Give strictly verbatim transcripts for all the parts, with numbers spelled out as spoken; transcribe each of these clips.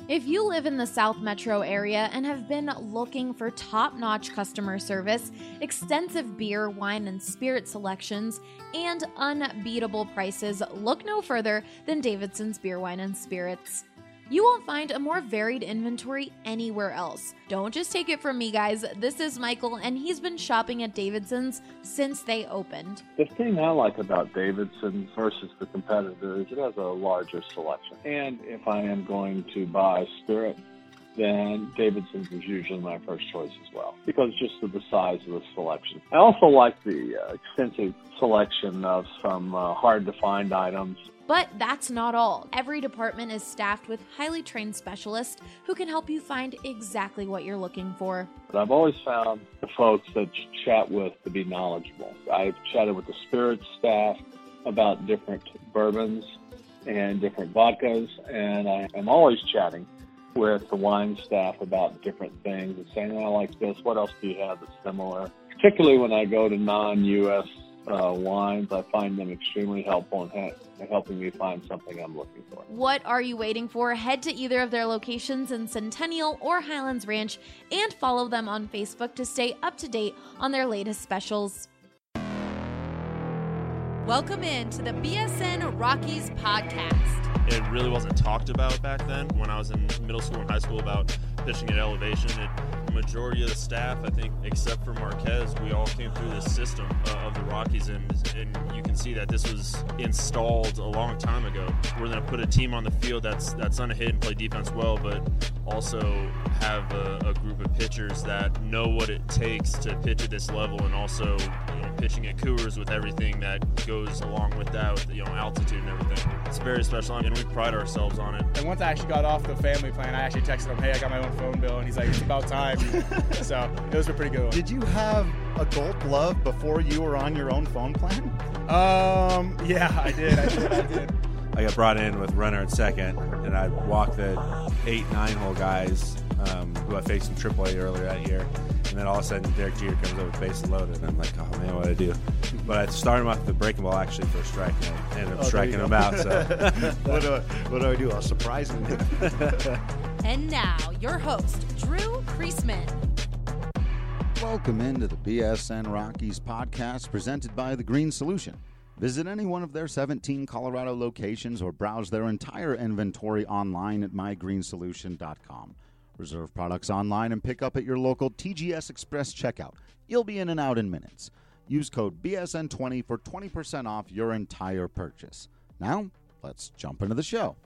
If you live in the South Metro area and have been looking for top-notch customer service, extensive beer, wine, and spirit selections, and unbeatable prices, look no further than Davidson's Beer, Wine, and Spirits. You won't find a more varied inventory anywhere else. Don't just take it from me, guys. This is Michael, and he's been shopping at Davidson's since they opened. The thing I like about Davidson's versus the competitor is it has a larger selection. And if I am going to buy spirit, then Davidson's is usually my first choice as well, because just of the size of the selection. I also like the uh, extensive selection of some uh, hard-to-find items. But that's not all. Every department is staffed with highly trained specialists who can help you find exactly what you're looking for. But I've always found the folks that you chat with to be knowledgeable. I've chatted with the spirits staff about different bourbons and different vodkas, and I am always chatting with the wine staff about different things and saying, I like this, what else do you have that's similar? Particularly when I go to non-U S Uh, wines, I find them extremely helpful in, ha- in helping me find something I'm looking for. What are you waiting for? Head to either of their locations in Centennial or Highlands Ranch and follow them on Facebook to stay up to date on their latest specials. Welcome in to the B S N Rockies podcast. It really wasn't talked about back then when I was in middle school and high school about pitching at elevation. It, the majority of the staff, I think, except for Marquez, we all came through this system uh, of the Rockies, and, and you can see that this was installed a long time ago. We're going to put a team on the field that's that's going to hit and play defense well, but also have a, a group of pitchers that know what it takes to pitch at this level, and also, you know, pitching at Coors with everything that goes along with that, with, you know, altitude and everything. It's very special, and we pride ourselves on it. And once I actually got off the family plan, I actually texted him, hey, I got my own phone bill, and he's like, it's about time. So it was a pretty good one. Did you have a Gold Glove before you were on your own phone plan? Um, yeah, I did, I did, I did. I got brought in with runner at second, and I walked the eight, nine-hole guys um, who I faced in triple A earlier that year. And then all of a sudden, Derek Jeter comes over with bases loaded, and I'm like, oh, man, what do I do? But I started him off with the breaking ball, actually, for a strike, and I ended up oh, striking him out. So what, do I, what do I do? I'll surprise him. And now, your host, Drew Creasman. Welcome into the B S N Rockies podcast presented by The Green Solution. Visit any one of their seventeen Colorado locations or browse their entire inventory online at my green solution dot com. Reserve products online and pick up at your local T G S Express checkout. You'll be in and out in minutes. Use code B S N twenty for twenty percent off your entire purchase. Now, let's jump into the show.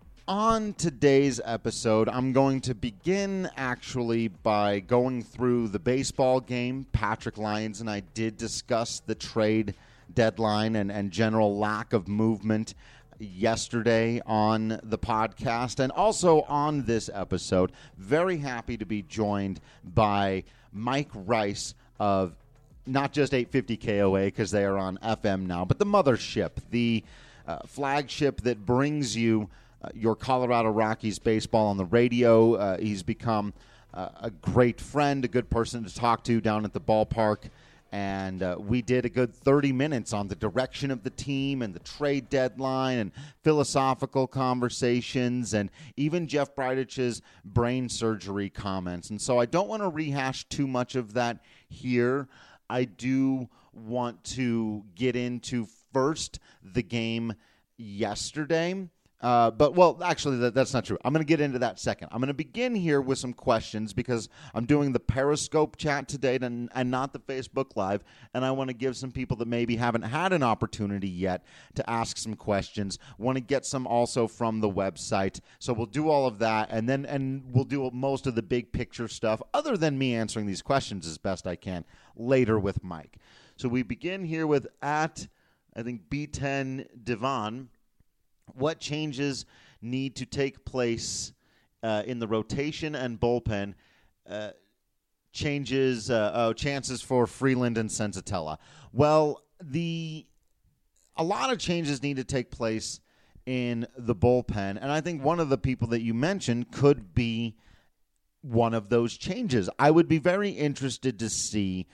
On today's episode, I'm going to begin actually by going through the baseball game. Patrick Lyons and I did discuss the trade deadline and, and general lack of movement yesterday on the podcast, and also on this episode. Very happy to be joined by Mike Rice of not just eight fifty K O A, because they are on F M now, but the mothership, the uh, flagship that brings you uh, your Colorado Rockies baseball on the radio. Uh, he's become uh, a great friend, a good person to talk to down at the ballpark. And uh, we did a good thirty minutes on the direction of the team and the trade deadline and philosophical conversations and even Jeff Breidich's brain surgery comments. And so I don't want to rehash too much of that here. I do want to get into first the game yesterday. Uh, but, well, actually, that, that's not true. I'm going to get into that second. I'm going to begin here with some questions because I'm doing the Periscope chat today and, and not the Facebook Live, and I want to give some people that maybe haven't had an opportunity yet to ask some questions. Want to get some also from the website. So we'll do all of that, and then and we'll do most of the big picture stuff, other than me answering these questions as best I can, later with Mike. So we begin here with at, I think, B ten Devon. What changes need to take place uh, in the rotation and bullpen? Uh, changes, uh, oh, chances for Freeland and Senzatella. Well, the a lot of changes need to take place in the bullpen, and I think one of the people that you mentioned could be one of those changes. I would be very interested to see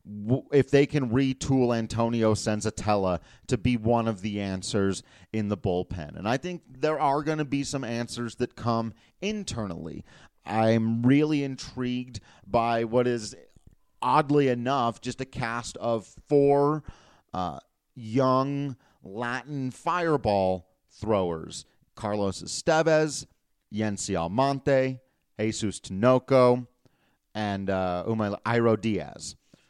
if they can retool Antonio Senzatella to be one of the answers in the bullpen. And I think there are going to be some answers that come internally. I'm really intrigued by what is, oddly enough, just a cast of four uh, young Latin fireball throwers. Carlos Estevez, Yency Almonte, Jesus Tinoco, and uh, Umay Jairo Diaz.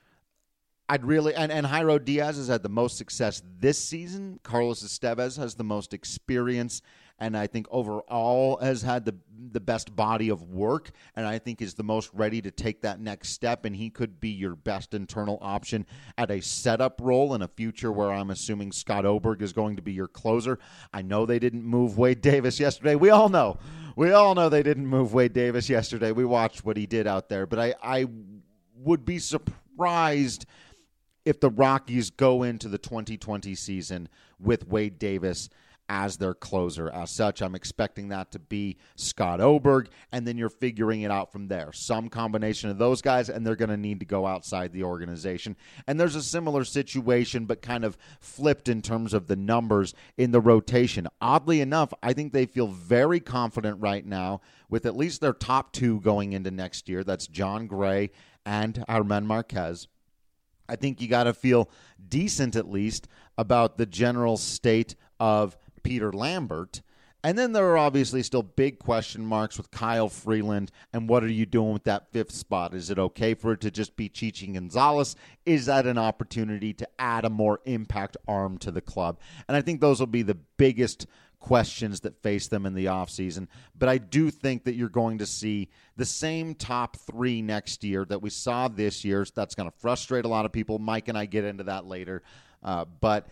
I'd really and, and Jairo Diaz has had the most success this season. Carlos Estevez has the most experience, and I think overall has had the the best body of work, and I think is the most ready to take that next step, and he could be your best internal option at a setup role in a future where I'm assuming Scott Oberg is going to be your closer. I know they didn't move Wade Davis yesterday. We all know. We all know they didn't move Wade Davis yesterday. We watched what he did out there, but I, I would be surprised if the Rockies go into the twenty twenty season with Wade Davis as their closer. As such, I'm expecting that to be Scott Oberg, and then you're figuring it out from there. Some combination of those guys, and they're going to need to go outside the organization. And there's a similar situation, but kind of flipped in terms of the numbers in the rotation. Oddly enough, I think they feel very confident right now with at least their top two going into next year. That's John Gray and Germán Marquez. I think you got to feel decent at least about the general state of Peter Lambert. And then there are obviously still big question marks with Kyle Freeland and what are you doing with that fifth spot? Is it okay for it to just be Chichi Gonzalez? Is that an opportunity to add a more impact arm to the club? And I think those will be the biggest questions that face them in the offseason. But I do think that you're going to see the same top three next year that we saw this year. That's going to frustrate a lot of people. Mike and I get into that later. Uh, but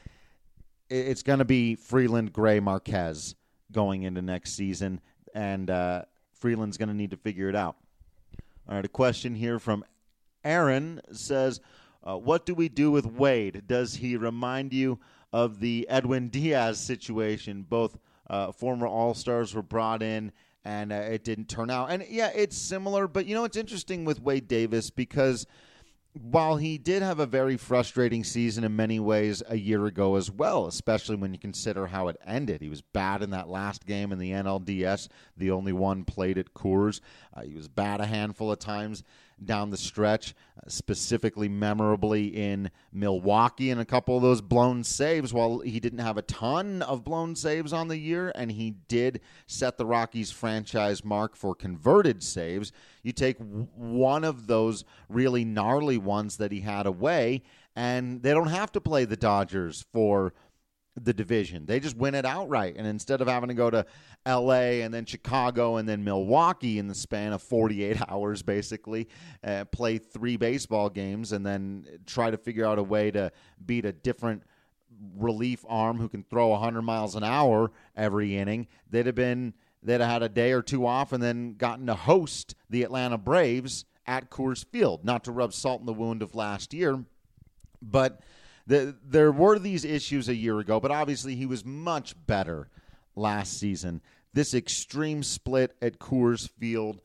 it's going to be Freeland, Gray, Marquez going into next season. And uh, Freeland's going to need to figure it out. All right, a question here from Aaron says, uh, what do we do with Wade? Does he remind you of the Edwin Diaz situation? Both uh, former All-Stars were brought in, and uh, it didn't turn out. And, yeah, it's similar, but, you know, it's interesting with Wade Davis because while he did have a very frustrating season in many ways a year ago as well, especially when you consider how it ended. He was bad in that last game in the N L D S, the only one played at Coors. Uh, he was bad a handful of times down the stretch, uh, specifically memorably in Milwaukee, and a couple of those blown saves. While he didn't have a ton of blown saves on the year, and he did set the Rockies franchise mark for converted saves, you take w- one of those really gnarly ones that he had away, and they don't have to play the Dodgers for the division. They just win it outright. And instead of having to go to L A and then Chicago and then Milwaukee in the span of forty-eight hours, basically, uh, play three baseball games and then try to figure out a way to beat a different relief arm who can throw one hundred miles an hour every inning, they'd have been, they'd have had a day or two off and then gotten to host the Atlanta Braves at Coors Field. Not to rub salt in the wound of last year, but The, there were these issues a year ago, but obviously he was much better last season. This extreme split at Coors Field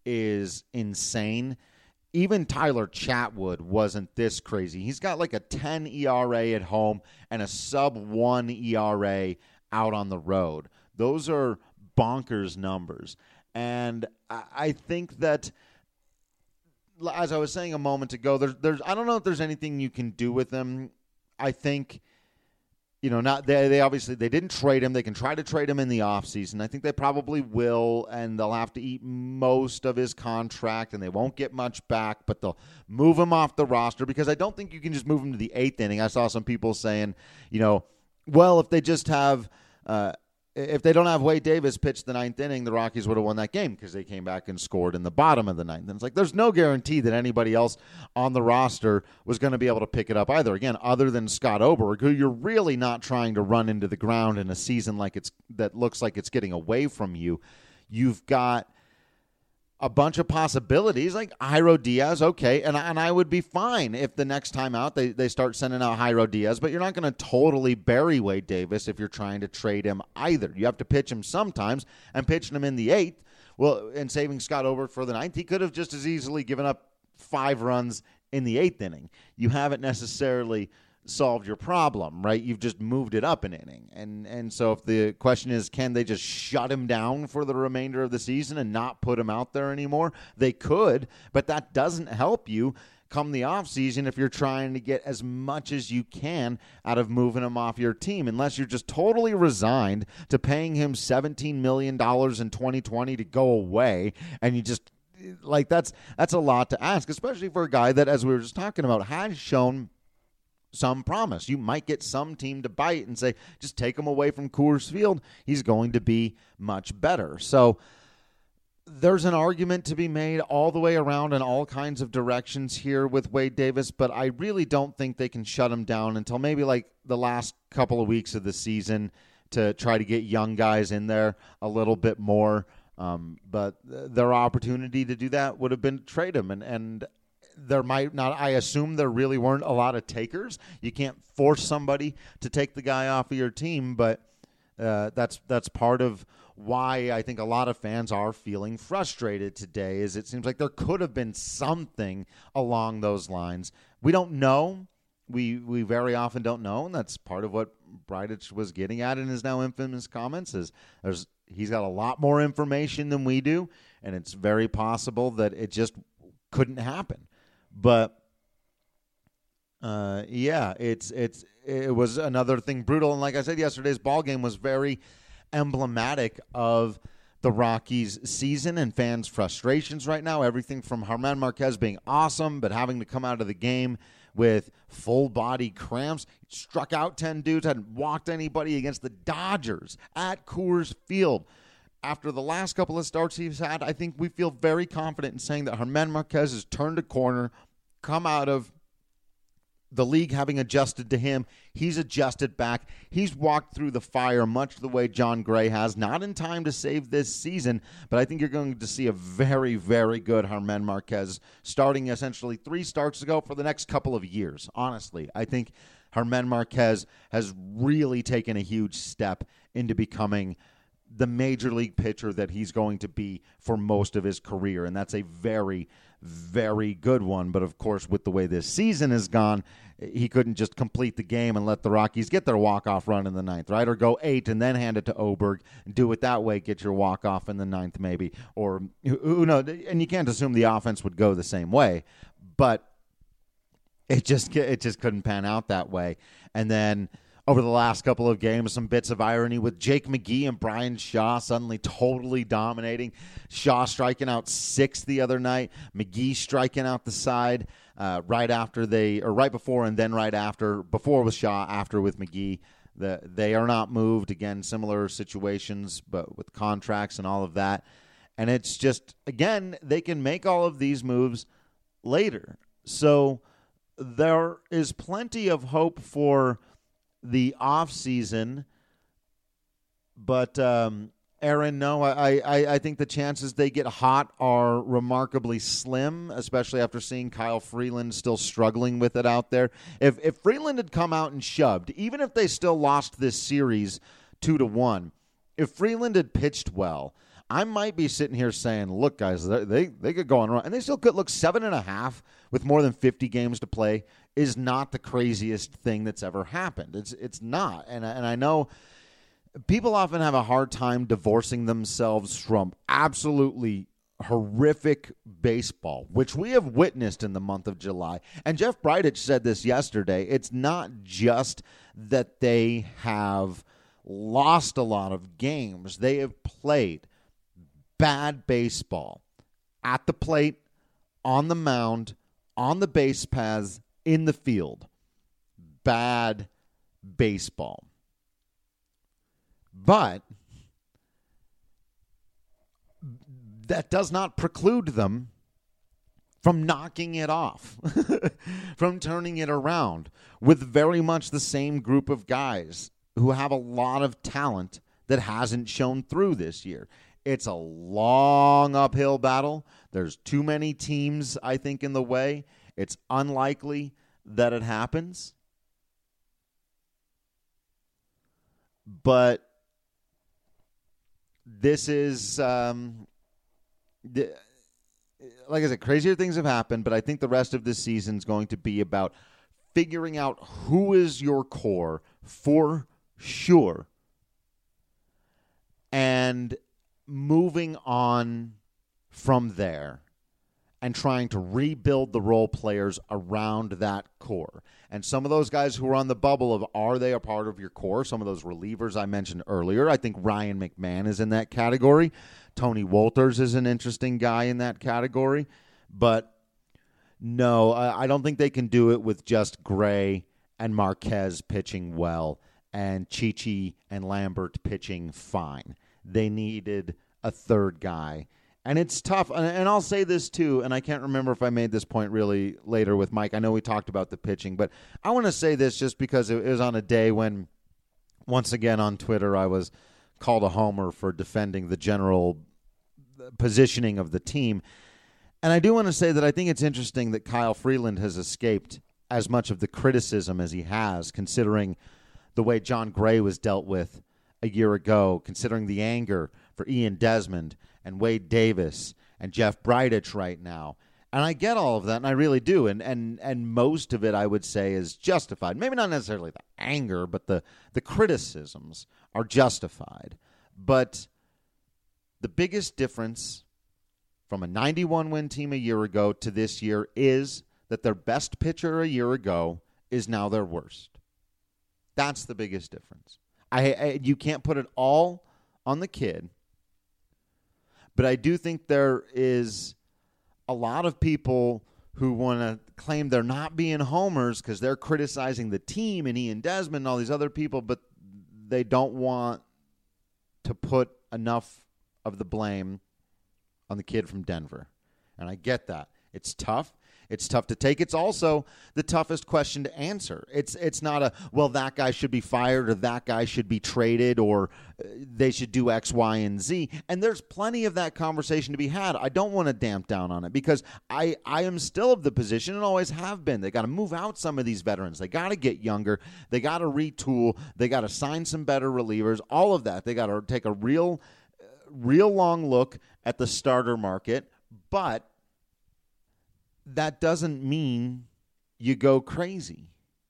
is insane. Even Tyler Chatwood wasn't this crazy. He's got like a ten E R A at home and a sub one E R A out on the road. Those are bonkers numbers. And I, I think that, as I was saying a moment ago, there's, there's I don't know if there's anything you can do with them. I think, you know, not they, they obviously they didn't trade him. They can try to trade him in the offseason. I think they probably will, and they'll have to eat most of his contract, and they won't get much back, but they'll move him off the roster because I don't think you can just move him to the eighth inning. I saw some people saying, you know, well, if they just have uh, – if they don't have Wade Davis pitch the ninth inning, the Rockies would have won that game because they came back and scored in the bottom of the ninth. And it's like there's no guarantee that anybody else on the roster was going to be able to pick it up either. Again, other than Scott Oberg, who you're really not trying to run into the ground in a season like it's that looks like it's getting away from you. You've got a bunch of possibilities like Jairo Diaz, okay, and, and I would be fine if the next time out they, they start sending out Jairo Diaz, but you're not going to totally bury Wade Davis if you're trying to trade him either. You have to pitch him sometimes, and pitching him in the eighth, well, and saving Scott Oberg for the ninth, he could have just as easily given up five runs in the eighth inning. You haven't necessarily solved your problem, right? You've just moved it up an inning. And and so if the question is, can they just shut him down for the remainder of the season and not put him out there anymore? They could, but that doesn't help you come the offseason if you're trying to get as much as you can out of moving him off your team, unless you're just totally resigned to paying him seventeen million dollars in twenty twenty to go away, and you just, like, that's that's a lot to ask, especially for a guy that, as we were just talking about, has shown some promise. You might get some team to bite and say, just take him away from Coors Field. He's going to be much better. So there's an argument to be made all the way around in all kinds of directions here with Wade Davis, but I really don't think they can shut him down until maybe like the last couple of weeks of the season to try to get young guys in there a little bit more. Um, but their opportunity to do that would have been to trade him. And, and there might not, I assume there really weren't a lot of takers. You can't force somebody to take the guy off of your team, but uh, that's that's part of why I think a lot of fans are feeling frustrated today, is it seems like there could have been something along those lines. We don't know. We we very often don't know, and that's part of what Bridich was getting at in his now infamous comments, is there's he's got a lot more information than we do, and it's very possible that it just couldn't happen. But uh, yeah, it's it's it was another thing brutal, and like I said, yesterday's ball game was very emblematic of the Rockies' season and fans' frustrations right now. Everything from Germán Márquez being awesome, but having to come out of the game with full body cramps. Struck out ten dudes, hadn't walked anybody against the Dodgers at Coors Field. After the last couple of starts he's had, I think we feel very confident in saying that Germán Márquez has turned a corner, come out of the league having adjusted to him. He's adjusted back. He's walked through the fire much the way John Gray has, not in time to save this season, but I think you're going to see a very, very good Germán Márquez starting essentially three starts ago for the next couple of years. Honestly, I think Germán Márquez has really taken a huge step into becoming the major league pitcher that he's going to be for most of his career, and that's a very, very good one. But of course, with the way this season has gone, he couldn't just complete the game and let the Rockies get their walk-off run in the ninth, right? Or go eight and then hand it to Oberg and do it that way, get your walk-off in the ninth maybe. Or, who knows, and you can't assume the offense would go the same way, but it just it just couldn't pan out that way. And then over the last couple of games, some bits of irony with Jake McGee and Brian Shaw suddenly totally dominating. Shaw striking out six the other night. McGee striking out the side uh, right after they, or right before and then right after. Before with Shaw, after with McGee. The, they are not moved. Again, similar situations, but with contracts and all of that. And it's just, again, they can make all of these moves later. So there is plenty of hope for the off season, but um, Aaron, no, I, I, I think the chances they get hot are remarkably slim, especially after seeing Kyle Freeland still struggling with it out there. If if Freeland had come out and shoved, even if they still lost this series two to one, if Freeland had pitched well, I might be sitting here saying, look, guys, they they could go on run, and they still could. Look, seven and a half with more than fifty games to play is not the craziest thing that's ever happened. It's it's not. And, and I know people often have a hard time divorcing themselves from absolutely horrific baseball, which we have witnessed in the month of July. And Jeff Bridich said this yesterday. It's not just that they have lost a lot of games. They have played bad baseball at the plate, on the mound, on the base paths, in the field. Bad baseball. But that does not preclude them from knocking it off, from turning it around with very much the same group of guys who have a lot of talent that hasn't shown through this year. It's a long uphill battle. There's too many teams, I think, in the way. It's unlikely that it happens. But this is um, the, like I said, crazier things have happened, but I think the rest of this season is going to be about figuring out who is your core for sure and moving on from there and trying to rebuild the role players around that core. And some of those guys who are on the bubble of, are they a part of your core? Some of those relievers I mentioned earlier. I think Ryan McMahon is in that category. Tony Wolters is an interesting guy in that category. But no, I, I don't think they can do it with just Gray and Marquez pitching well and Chichi and Lambert pitching fine. They needed a third guy. And it's tough, and I'll say this too, and I can't remember if I made this point really later with Mike. I know we talked about the pitching, but I want to say this just because it was on a day when, once again on Twitter, I was called a homer for defending the general positioning of the team. And I do want to say that I think it's interesting that Kyle Freeland has escaped as much of the criticism as he has, considering the way John Gray was dealt with a year ago, considering the anger for Ian Desmond and Wade Davis and Jeff Bridich right now. And I get all of that, and I really do. And and and most of it, I would say, is justified. Maybe not necessarily the anger, but the, the criticisms are justified. But the biggest difference from a ninety-one win team a year ago to this year is that their best pitcher a year ago is now their worst. That's the biggest difference. I, I you can't put it all on the kid. But I do think there is a lot of people who want to claim they're not being homers because they're criticizing the team and Ian Desmond and all these other people, but they don't want to put enough of the blame on the kid from Denver. And I get that. It's tough. It's tough to take. It's also the toughest question to answer. It's it's not a, well, that guy should be fired or that guy should be traded or they should do X, Y, and Z. And there's plenty of that conversation to be had. I don't want to damp down on it because I, I am still of the position and always have been. They got to move out some of these veterans. They got to get younger. They got to retool. They got to sign some better relievers. All of that. They got to take a real, real long look at the starter market. But that doesn't mean you go crazy.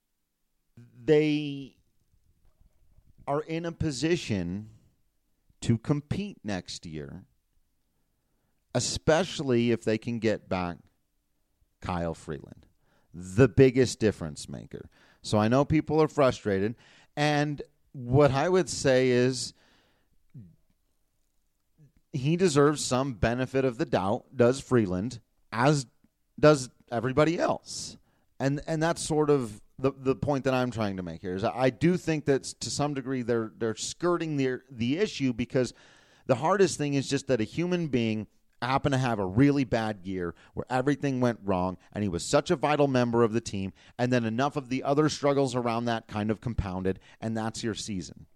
They are in a position to compete next year, especially if they can get back Kyle Freeland, the biggest difference maker. So I know people are frustrated, and what I would say is he deserves some benefit of the doubt, does Freeland, as does everybody else. And and that's sort of the the point that I'm trying to make here is I do think that to some degree they're they're skirting the the issue because the hardest thing is just that a human being happened to have a really bad year where everything went wrong and he was such a vital member of the team, and then enough of the other struggles around that kind of compounded, and that's your season.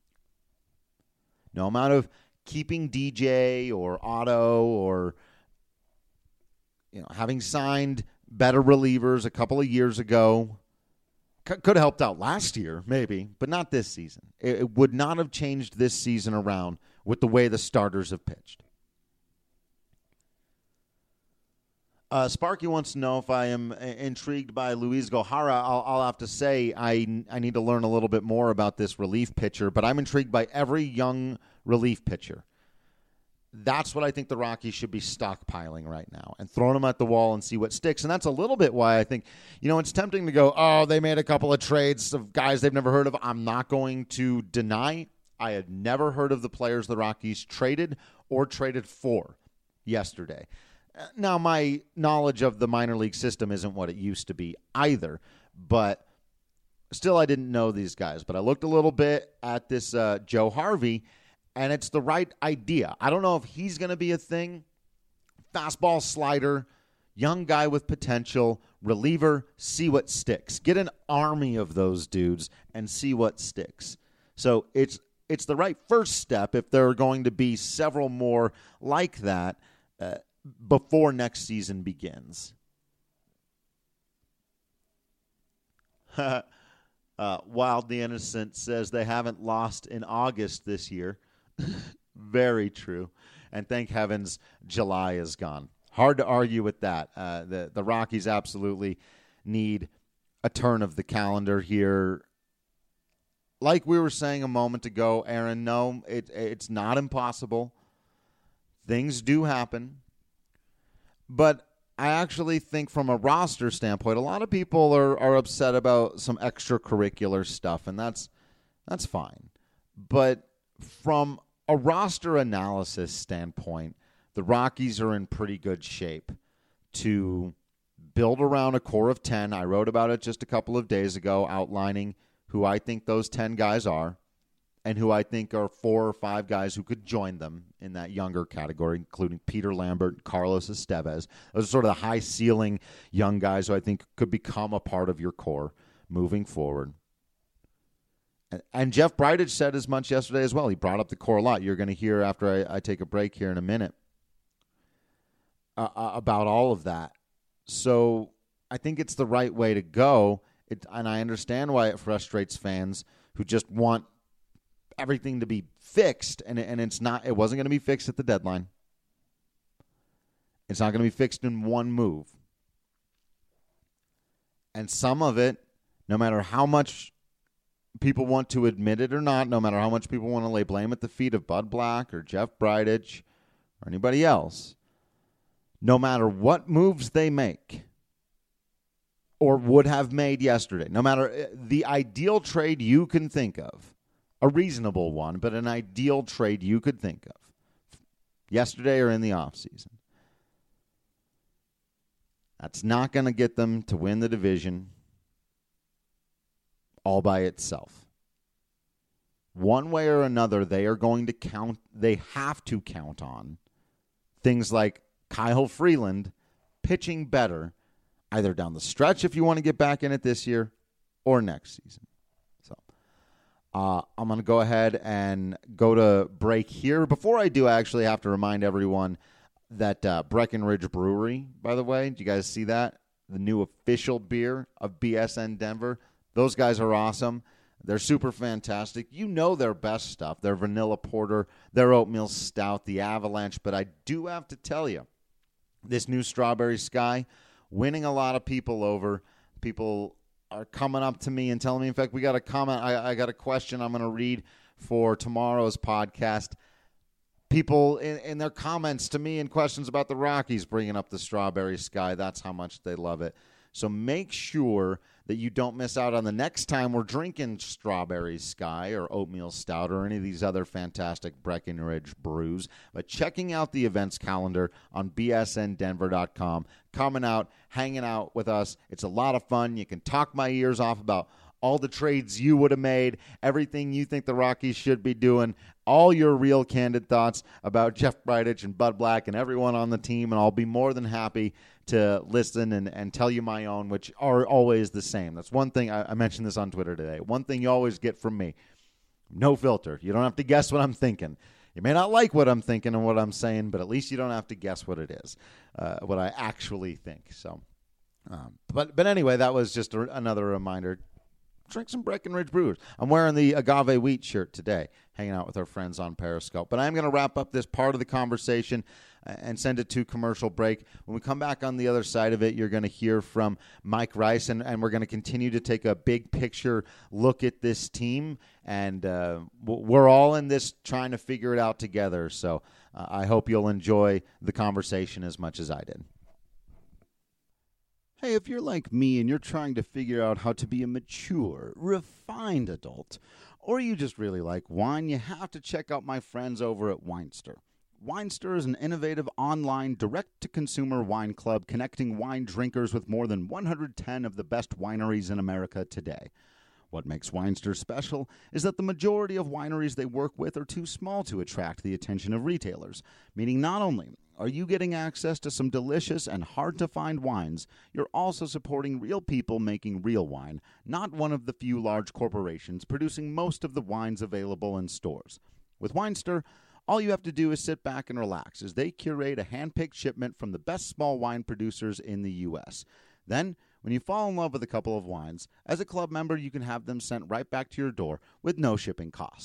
No amount of keeping D J or Otto or you know, having signed better relievers a couple of years ago c- could have helped out last year, maybe, but not this season. It, it would not have changed this season around with the way the starters have pitched. Uh, Sparky wants to know if I am intrigued by Luis Gohara. I'll, I'll have to say I, I need to learn a little bit more about this relief pitcher, but I'm intrigued by every young relief pitcher. That's what I think the Rockies should be stockpiling right now and throwing them at the wall and see what sticks. And that's a little bit why I think, you know, it's tempting to go, oh, they made a couple of trades of guys they've never heard of. I'm not going to deny I had never heard of the players the Rockies traded or traded for yesterday. Now, my knowledge of the minor league system isn't what it used to be either, but still I didn't know these guys. But I looked a little bit at this uh, Joe Harvey, and it's the right idea. I don't know if he's going to be a thing. Fastball, slider, young guy with potential, reliever, see what sticks. Get an army of those dudes and see what sticks. So it's it's the right first step if there are going to be several more like that uh, before next season begins. uh, Wild the Innocent says they haven't lost in August this year. Very true. And thank heavens July is gone. Hard to argue with that. Uh, the, the Rockies absolutely need a turn of the calendar here. Like we were saying a moment ago, Aaron, no, it, it's not impossible. Things do happen. But I actually think from a roster standpoint, a lot of people are, are upset about some extracurricular stuff, and that's that's fine. But from a roster analysis standpoint, the Rockies are in pretty good shape to build around a core of ten. I wrote about it just a couple of days ago, outlining who I think those ten guys are and who I think are four or five guys who could join them in that younger category, including Peter Lambert, Carlos Estevez. Those are sort of the high-ceiling young guys who I think could become a part of your core moving forward. And Jeff Bridich said as much yesterday as well. He brought up the core a lot. You're going to hear after I, I take a break here in a minute uh, about all of that. So I think it's the right way to go. It, and I understand why it frustrates fans who just want everything to be fixed, and, and it's not. It wasn't going to be fixed at the deadline. It's not going to be fixed in one move. And some of it, no matter how much people want to admit it or not, no matter how much people want to lay blame at the feet of Bud Black or Jeff Bridich or anybody else, no matter what moves they make or would have made yesterday, no matter the ideal trade you can think of, a reasonable one, but an ideal trade you could think of, yesterday or in the offseason, that's not going to get them to win the division all by itself. One way or another, they are going to count, they have to count on things like Kyle Freeland pitching better, either down the stretch if you want to get back in it this year or next season. So uh, I'm going to go ahead and go to break here. Before I do, I actually have to remind everyone that uh, Breckenridge Brewery, by the way, did you guys see that? The new official beer of B S N Denver. Those guys are awesome. They're super fantastic. You know their best stuff, their vanilla porter, their oatmeal stout, the Avalanche. But I do have to tell you, this new Strawberry Sky, winning a lot of people over. People are coming up to me and telling me, in fact, we got a comment, I, I got a question I'm going to read for tomorrow's podcast. People in, in their comments to me and questions about the Rockies bringing up the Strawberry Sky. That's how much they love it. So make sure that you don't miss out on the next time we're drinking Strawberry Sky or Oatmeal Stout or any of these other fantastic Breckenridge brews. But checking out the events calendar on B S N Denver dot com, coming out, hanging out with us. It's a lot of fun. You can talk my ears off about all the trades you would have made, everything you think the Rockies should be doing, all your real candid thoughts about Jeff Bridich and Bud Black and everyone on the team, and I'll be more than happy to listen and, and tell you my own, which are always the same. That's one thing, I, I mentioned this on Twitter today, one thing you always get from me, no filter. You don't have to guess what I'm thinking. You may not like what I'm thinking and what I'm saying, but at least you don't have to guess what it is, uh, what I actually think. So, um, but, but anyway, that was just a, another reminder. Drink some Breckenridge Brewers. I'm wearing the Agave Wheat shirt today, hanging out with our friends on Periscope. But I'm going to wrap up this part of the conversation and send it to commercial break. When we come back on the other side of it, you're going to hear from Mike Rice, and, and we're going to continue to take a big picture look at this team. And uh, we're all in this trying to figure it out together. So uh, I hope you'll enjoy the conversation as much as I did. Hey, if you're like me and you're trying to figure out how to be a mature, refined adult, or you just really like wine, you have to check out my friends over at Winester. Winester is an innovative online direct-to-consumer wine club connecting wine drinkers with more than one hundred ten of the best wineries in America today. What makes Winester special is that the majority of wineries they work with are too small to attract the attention of retailers, meaning not only are you getting access to some delicious and hard-to-find wines, you're also supporting real people making real wine, not one of the few large corporations producing most of the wines available in stores. With Winester, all you have to do is sit back and relax as they curate a hand-picked shipment from the best small wine producers in the U S. Then, when you fall in love with a couple of wines, as a club member, you can have them sent right back to your door with no shipping cost.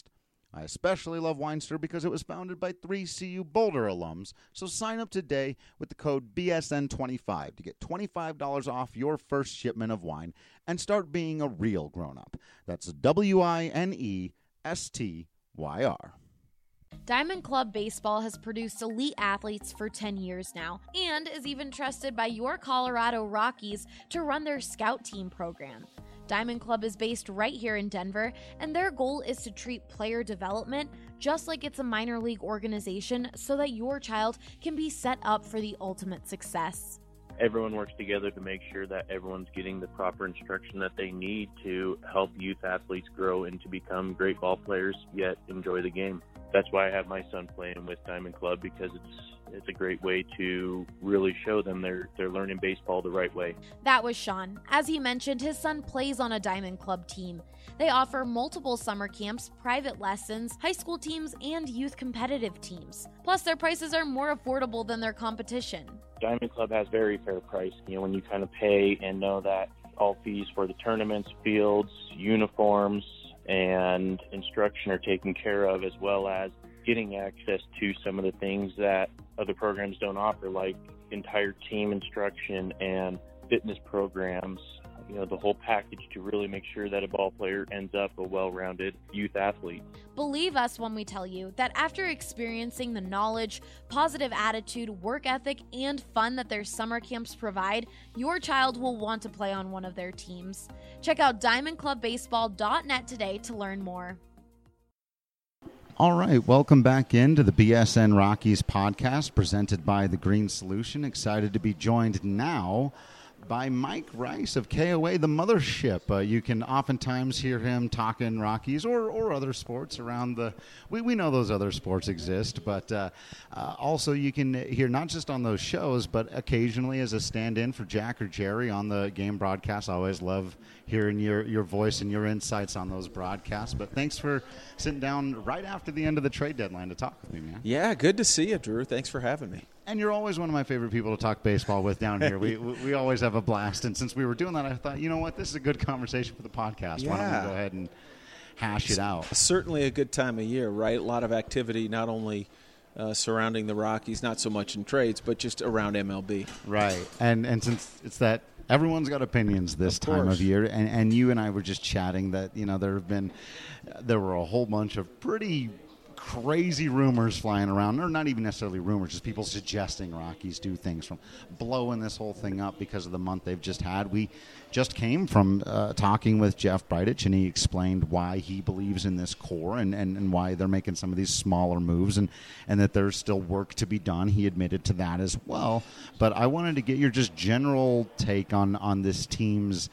I especially love Weinster because it was founded by three C U Boulder alums, so sign up today with the code B S N twenty-five to get twenty-five dollars off your first shipment of wine and start being a real grown-up. That's W I N E S T Y R. Diamond Club Baseball has produced elite athletes for ten years now and is even trusted by your Colorado Rockies to run their scout team program. Diamond Club is based right here in Denver, and their goal is to treat player development just like it's a minor league organization so that your child can be set up for the ultimate success. Everyone works together to make sure that everyone's getting the proper instruction that they need to help youth athletes grow and to become great ball players, yet enjoy the game. That's why I have my son playing with Diamond Club, because it's it's a great way to really show them they're they're learning baseball the right way. That was Sean. As he mentioned, his son plays on a Diamond Club team. They offer multiple summer camps, private lessons, high school teams, and youth competitive teams. Plus, their prices are more affordable than their competition. Diamond Club has very fair price. You know, when you kind of pay and know that all fees for the tournaments, fields, uniforms, and instruction are taken care of, as well as getting access to some of the things that other programs don't offer, like entire team instruction and fitness programs, you know, the whole package to really make sure that a ball player ends up a well-rounded youth athlete. Believe us when we tell you that after experiencing the knowledge, positive attitude, work ethic, and fun that their summer camps provide, your child will want to play on one of their teams. Check out diamond club baseball dot net today to learn more. All right, welcome back into the B S N Rockies podcast presented by The Green Solution. Excited to be joined now by Mike Rice of K O A, the mothership. Uh, you can oftentimes hear him talking Rockies or, or other sports around the, we, we know those other sports exist, but uh, uh, also you can hear not just on those shows, but occasionally as a stand-in for Jack or Jerry on the game broadcast. I always love hearing your, your voice and your insights on those broadcasts. But thanks for sitting down right after the end of the trade deadline to talk with me, man. Yeah, good to see you, Drew. Thanks for having me. And you're always one of my favorite people to talk baseball with down here. We we always have a blast. And since we were doing that, I thought, you know what, this is a good conversation for the podcast. Yeah. Why don't we go ahead and hash it out? Certainly a good time of year, right? A lot of activity, not only uh, surrounding the Rockies, not so much in trades, but just around M L B. Right. And and since it's that everyone's got opinions this time of year, and, and you and I were just chatting that, you know, there have been, there were a whole bunch of pretty crazy rumors flying around, or not even necessarily rumors, just people suggesting Rockies do things, from blowing this whole thing up because of the month they've just had. We just came from uh, talking with Jeff Bridich, and he explained why he believes in this core and, and, and why they're making some of these smaller moves, and, and that there's still work to be done. He admitted to that as well. But I wanted to get your just general take on, on this team's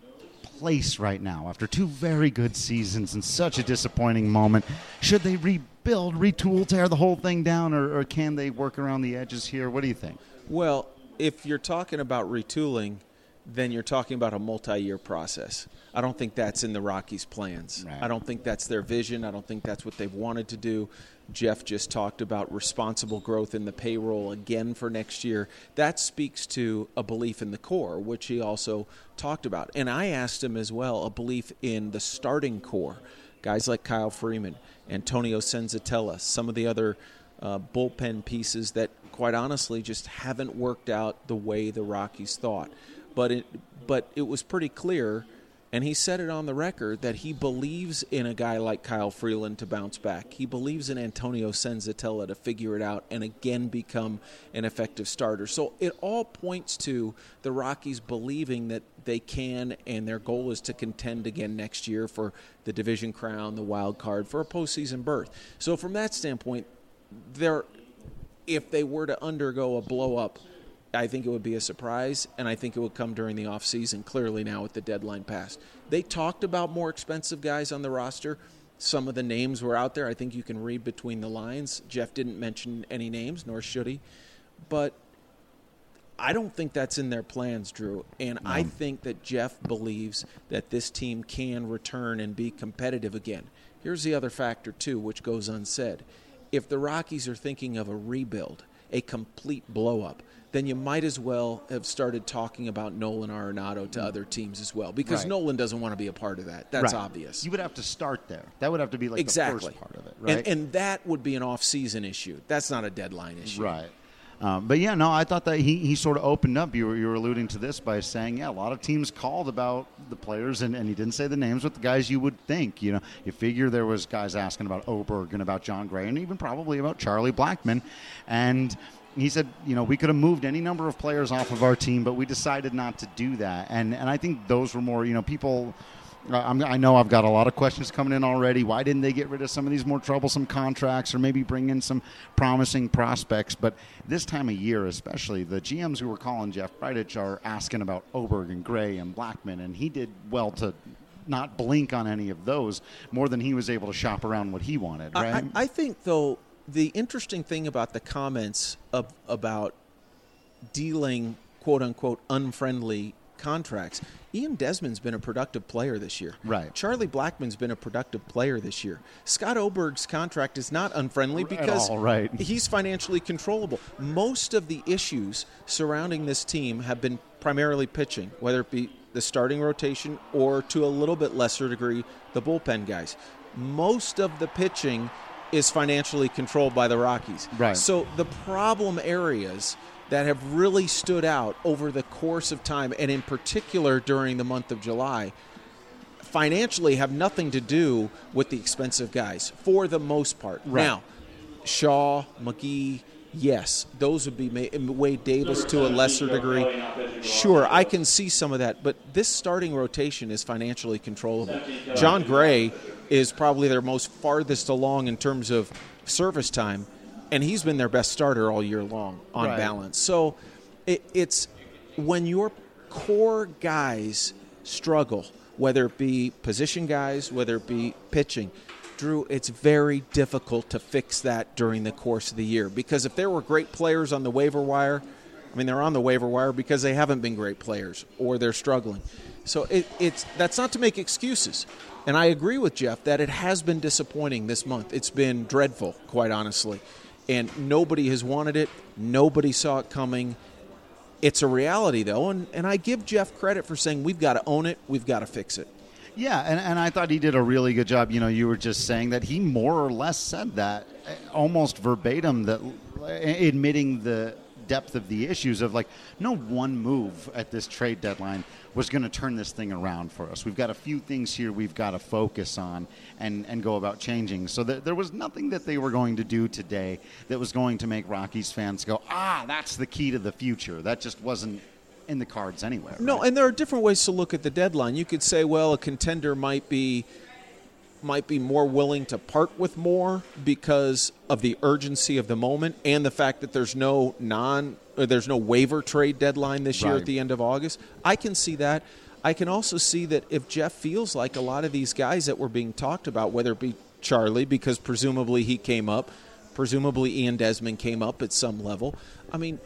place right now after two very good seasons and such a disappointing moment. Should they rebuild, retool, tear the whole thing down, or, or can they work around the edges here? What do you think? Well, if you're talking about retooling, then you're talking about a multi-year process. I don't think that's in the Rockies' plans. Right. I don't think that's their vision. I don't think that's what they've wanted to do. Jeff just talked about responsible growth in the payroll again for next year. That speaks to a belief in the core, which he also talked about. And I asked him as well a belief in the starting core. Guys like Kyle Freeman, Antonio Senzatella, some of the other uh, bullpen pieces that, quite honestly, just haven't worked out the way the Rockies thought. But it, but it was pretty clear, and he said it on the record, that he believes in a guy like Kyle Freeland to bounce back. He believes in Antonio Senzatella to figure it out and again become an effective starter. So it all points to the Rockies believing that they can, and their goal is to contend again next year for the division crown, the wild card, for a postseason berth. So from that standpoint, they're, if they were to undergo a blow-up, I think it would be a surprise, and I think it would come during the offseason, clearly now with the deadline passed. They talked about more expensive guys on the roster. Some of the names were out there. I think you can read between the lines. Jeff didn't mention any names, nor should he. But I don't think that's in their plans, Drew. And I think that Jeff believes that this team can return and be competitive again. Here's the other factor, too, which goes unsaid. If the Rockies are thinking of a rebuild, a complete blow-up, then you might as well have started talking about Nolan Arenado to other teams as well, because Right. Nolan doesn't want to be a part of that. That's Right. obvious. You would have to start there. That would have to be like exactly. the first part of it, right? And, and that would be an off-season issue. That's not a deadline issue. Right. Um, but, yeah, no, I thought that he, he sort of opened up. You were, you were alluding to this by saying, yeah, a lot of teams called about the players, and, and he didn't say the names, but the guys you would think. You know, you figure there was guys asking about Oberg and about John Gray and even probably about Charlie Blackmon. And he said, you know, we could have moved any number of players off of our team, but we decided not to do that. And, and I think those were more, you know, people – I'm, I know I've got a lot of questions coming in already. Why didn't they get rid of some of these more troublesome contracts or maybe bring in some promising prospects? But this time of year especially, the G Ms who were calling Jeff Bridich are asking about Oberg and Gray and Blackmon, and he did well to not blink on any of those more than he was able to shop around what he wanted, right? I, I think, though, the interesting thing about the comments of, about dealing, quote-unquote, unfriendly contracts, Ian Desmond's been a productive player this year. Right. Charlie Blackmon's been a productive player this year. Scott Oberg's contract is not unfriendly because all, right. he's financially controllable. Most of the issues surrounding this team have been primarily pitching, whether it be the starting rotation or, to a little bit lesser degree, the bullpen guys. Most of the pitching is financially controlled by the Rockies. Right. So the problem areas that have really stood out over the course of time, and in particular during the month of July, financially have nothing to do with the expensive guys, for the most part. Right. Now, Shaw, McGee, yes, those would be ma- Wade Davis to a lesser degree. Sure, I can see some of that, but this starting rotation is financially controllable. John Gray is probably their most farthest along in terms of service time, and he's been their best starter all year long on Right. balance. So it, it's when your core guys struggle, whether it be position guys, whether it be pitching, Drew, it's very difficult to fix that during the course of the year. Because if there were great players on the waiver wire, I mean, they're on the waiver wire because they haven't been great players or they're struggling. So it, it's that's not to make excuses. And I agree with Jeff that it has been disappointing this month. It's been dreadful, quite honestly. And nobody has wanted it. Nobody saw it coming. It's a reality, though, and, and I give Jeff credit for saying we've got to own it, we've got to fix it. Yeah, and, and I thought he did a really good job. You know, you were just saying that he more or less said that, almost verbatim, that admitting the depth of the issues of, like, no one move at this trade deadline was going to turn this thing around for us. We've got a few things here we've got to focus on and, and go about changing. So th- there was nothing that they were going to do today that was going to make Rockies fans go, ah, that's the key to the future. That just wasn't in the cards anywhere. No, right? and there are different ways to look at the deadline. You could say, well, a contender might be might be more willing to part with more because of the urgency of the moment and the fact that there's no non or there's no waiver trade deadline this year Right. at the end of August. I can see that. I can also see that if Jeff feels like a lot of these guys that were being talked about, whether it be Charlie, because presumably he came up, presumably Ian Desmond came up at some level. I mean,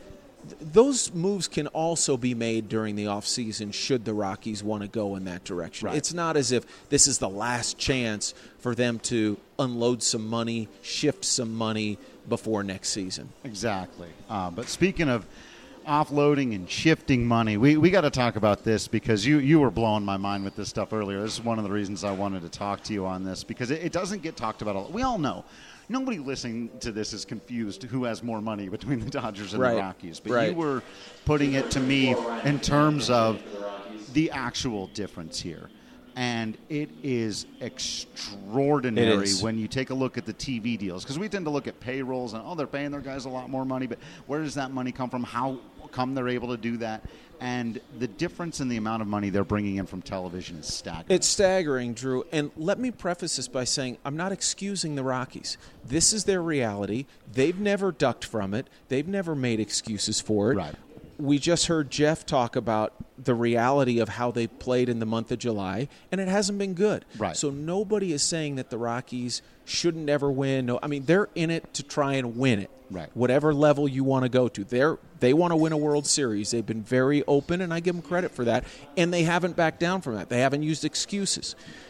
those moves can also be made during the offseason should the Rockies want to go in that direction. Right. It's not as if this is the last chance for them to unload some money, shift some money before next season. Exactly. Uh, but speaking of offloading and shifting money, we, we got to talk about this because you, you were blowing my mind with this stuff earlier. This is one of the reasons I wanted to talk to you on this because it, it doesn't get talked about a lot. We all know. Nobody listening to this is confused who has more money between the Dodgers and Right. the Rockies. But Right. you were putting it to me in terms of the actual difference here. And it is extraordinary It is. when you take a look at the T V deals. Because we tend to look at payrolls and, oh, they're paying their guys a lot more money. But where does that money come from? How come they're able to do that? And the difference in the amount of money they're bringing in from television is staggering. It's staggering, Drew. And let me preface this by saying I'm not excusing the Rockies. This is their reality. They've never ducked from it. They've never made excuses for it. Right. We just heard Jeff talk about the reality of how they played in the month of July, and it hasn't been good. Right. So nobody is saying that the Rockies shouldn't ever win. No, I mean, they're in it to try and win it. Right. Whatever level you want to go to. They're, they want to win a World Series. They've been very open, and I give them credit for that. And they haven't backed down from that. They haven't used excuses.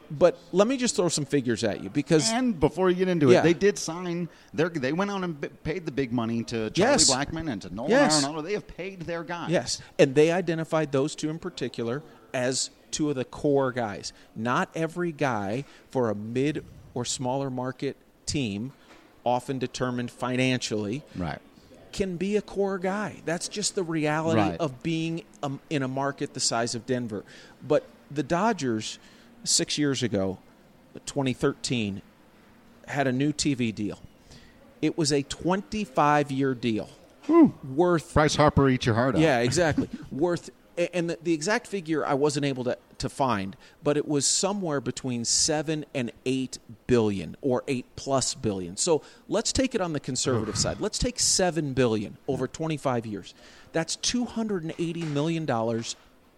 But let me just throw some figures at you because and before you get into it, yeah. they did sign. Their, they went on and b- paid the big money to Charlie Yes. Blackmon and to Nolan Yes. Arenado. They have paid their guys. Yes, and they identified those two in particular as two of the core guys. Not every guy for a mid or smaller market team, often determined financially, Right. can be a core guy. That's just the reality Right. of being um, in a market the size of Denver. But the Dodgers, six years ago, twenty thirteen, had a new T V deal. It was a twenty-five year deal. Whew. Worth Bryce Harper, eat your heart out. Yeah, exactly. Worth, and the, the exact figure I wasn't able to, to find, but it was somewhere between seven and eight billion, or eight plus billion. So let's take it on the conservative side. Let's take seven billion over twenty-five years. That's two hundred and eighty million dollars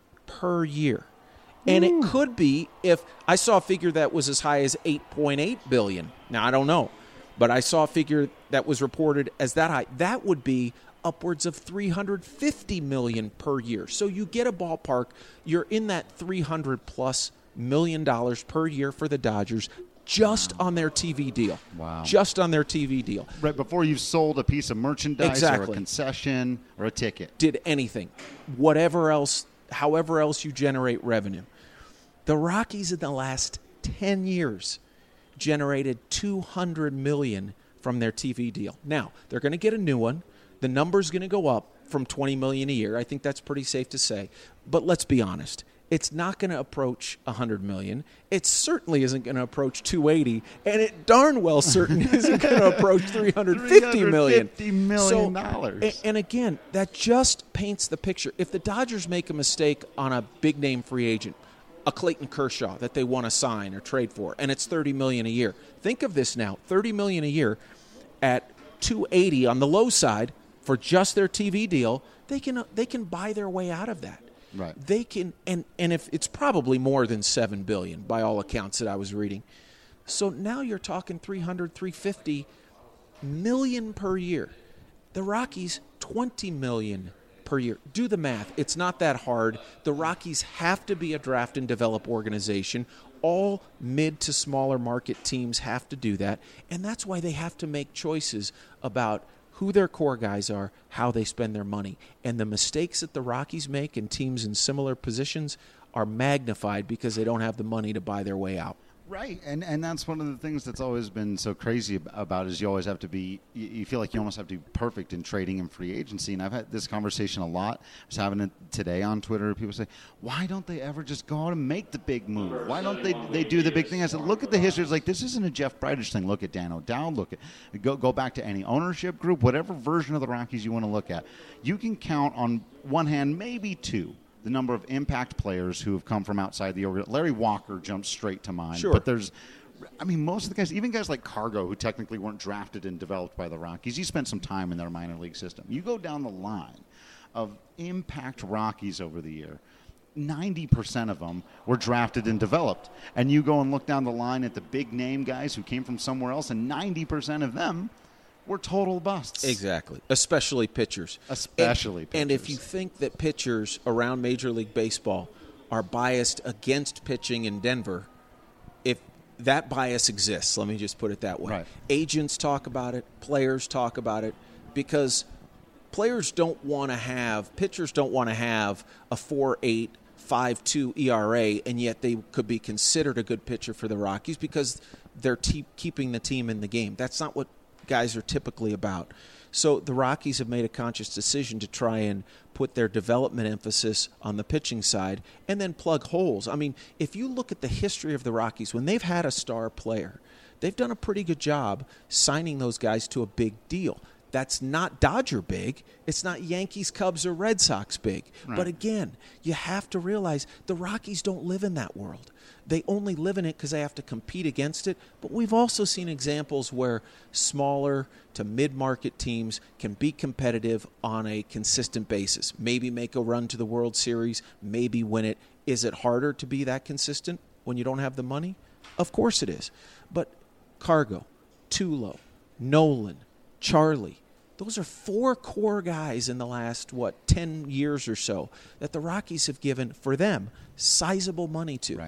per year. And it could be, if I saw a figure that was as high as eight point eight billion. Now I don't know, but I saw a figure that was reported as that high. That would be upwards of three hundred fifty million per year. So you get a ballpark, you're in that three hundred plus million dollars per year for the Dodgers just on their T V deal. Wow. Just on their T V deal. Right before you've sold a piece of merchandise or Exactly. a concession or a ticket. Did anything, whatever else, however else you generate revenue. The Rockies in the last ten years generated two hundred million dollars from their T V deal. Now, they're going to get a new one. The number's going to go up from twenty million dollars a year. I think that's pretty safe to say. But let's be honest. It's not going to approach one hundred million dollars. It certainly isn't going to approach two hundred eighty, and it darn well certain isn't going to approach three hundred fifty million dollars. three hundred fifty million dollars. So, and again, that just paints the picture. If the Dodgers make a mistake on a big-name free agent, a Clayton Kershaw that they want to sign or trade for, and it's thirty million dollars a year. Think of this now, thirty million dollars a year at two hundred eighty on the low side for just their T V deal, they can they can buy their way out of that. Right. They can, and and if it's probably more than seven billion dollars by all accounts that I was reading. So now you're talking three hundred, three hundred fifty million per year. The Rockies twenty million per year. Do the math. It's not that hard. The Rockies have to be a draft and develop organization. All mid to smaller market teams have to do that, and that's why they have to make choices about who their core guys are, how they spend their money. And the mistakes that the Rockies make and teams in similar positions are magnified because they don't have the money to buy their way out. Right, and and that's one of the things that's always been so crazy about is you always have to be, you, you feel like you almost have to be perfect in trading and free agency. And I've had this conversation a lot. I was having it today on Twitter. People say, why don't they ever just go out and make the big move? Why don't they they do the big thing? I said, look at the history. It's like, this isn't a Jeff Bridich thing. Look at Dan O'Dowd. Look at, go, go back to any ownership group, whatever version of the Rockies you want to look at. You can count on one hand, maybe two, the number of impact players who have come from outside the organization. Larry Walker jumps straight to mind. Sure. But there's, I mean, most of the guys, even guys like Cargo, who technically weren't drafted and developed by the Rockies, you spent some time in their minor league system. You go down the line of impact Rockies over the year, ninety percent of them were drafted and developed. And you go and look down the line at the big name guys who came from somewhere else, and ninety percent of them were total busts. Exactly, especially pitchers. Especially and, pitchers. And if you think that pitchers around Major League Baseball are biased against pitching in Denver, if that bias exists, let me just put it that way. Right. Agents talk about it, players talk about it, because players don't want to have, pitchers don't want to have a four point eight, five point two E R A, and yet they could be considered a good pitcher for the Rockies because they're te- keeping the team in the game. That's not what guys are typically about. So the Rockies have made a conscious decision to try and put their development emphasis on the pitching side and then plug holes. I mean, if you look at the history of the Rockies, when they've had a star player, they've done a pretty good job signing those guys to a big deal. That's not Dodger big. It's not Yankees, Cubs, or Red Sox big. Right. But again, you have to realize the Rockies don't live in that world. They only live in it because they have to compete against it. But we've also seen examples where smaller to mid-market teams can be competitive on a consistent basis. Maybe make a run to the World Series, maybe win it. Is it harder to be that consistent when you don't have the money? Of course it is. But Cargo, Tulo, Nolan, Charlie, those are four core guys in the last, what, ten years or so that the Rockies have given, for them, sizable money to. Right.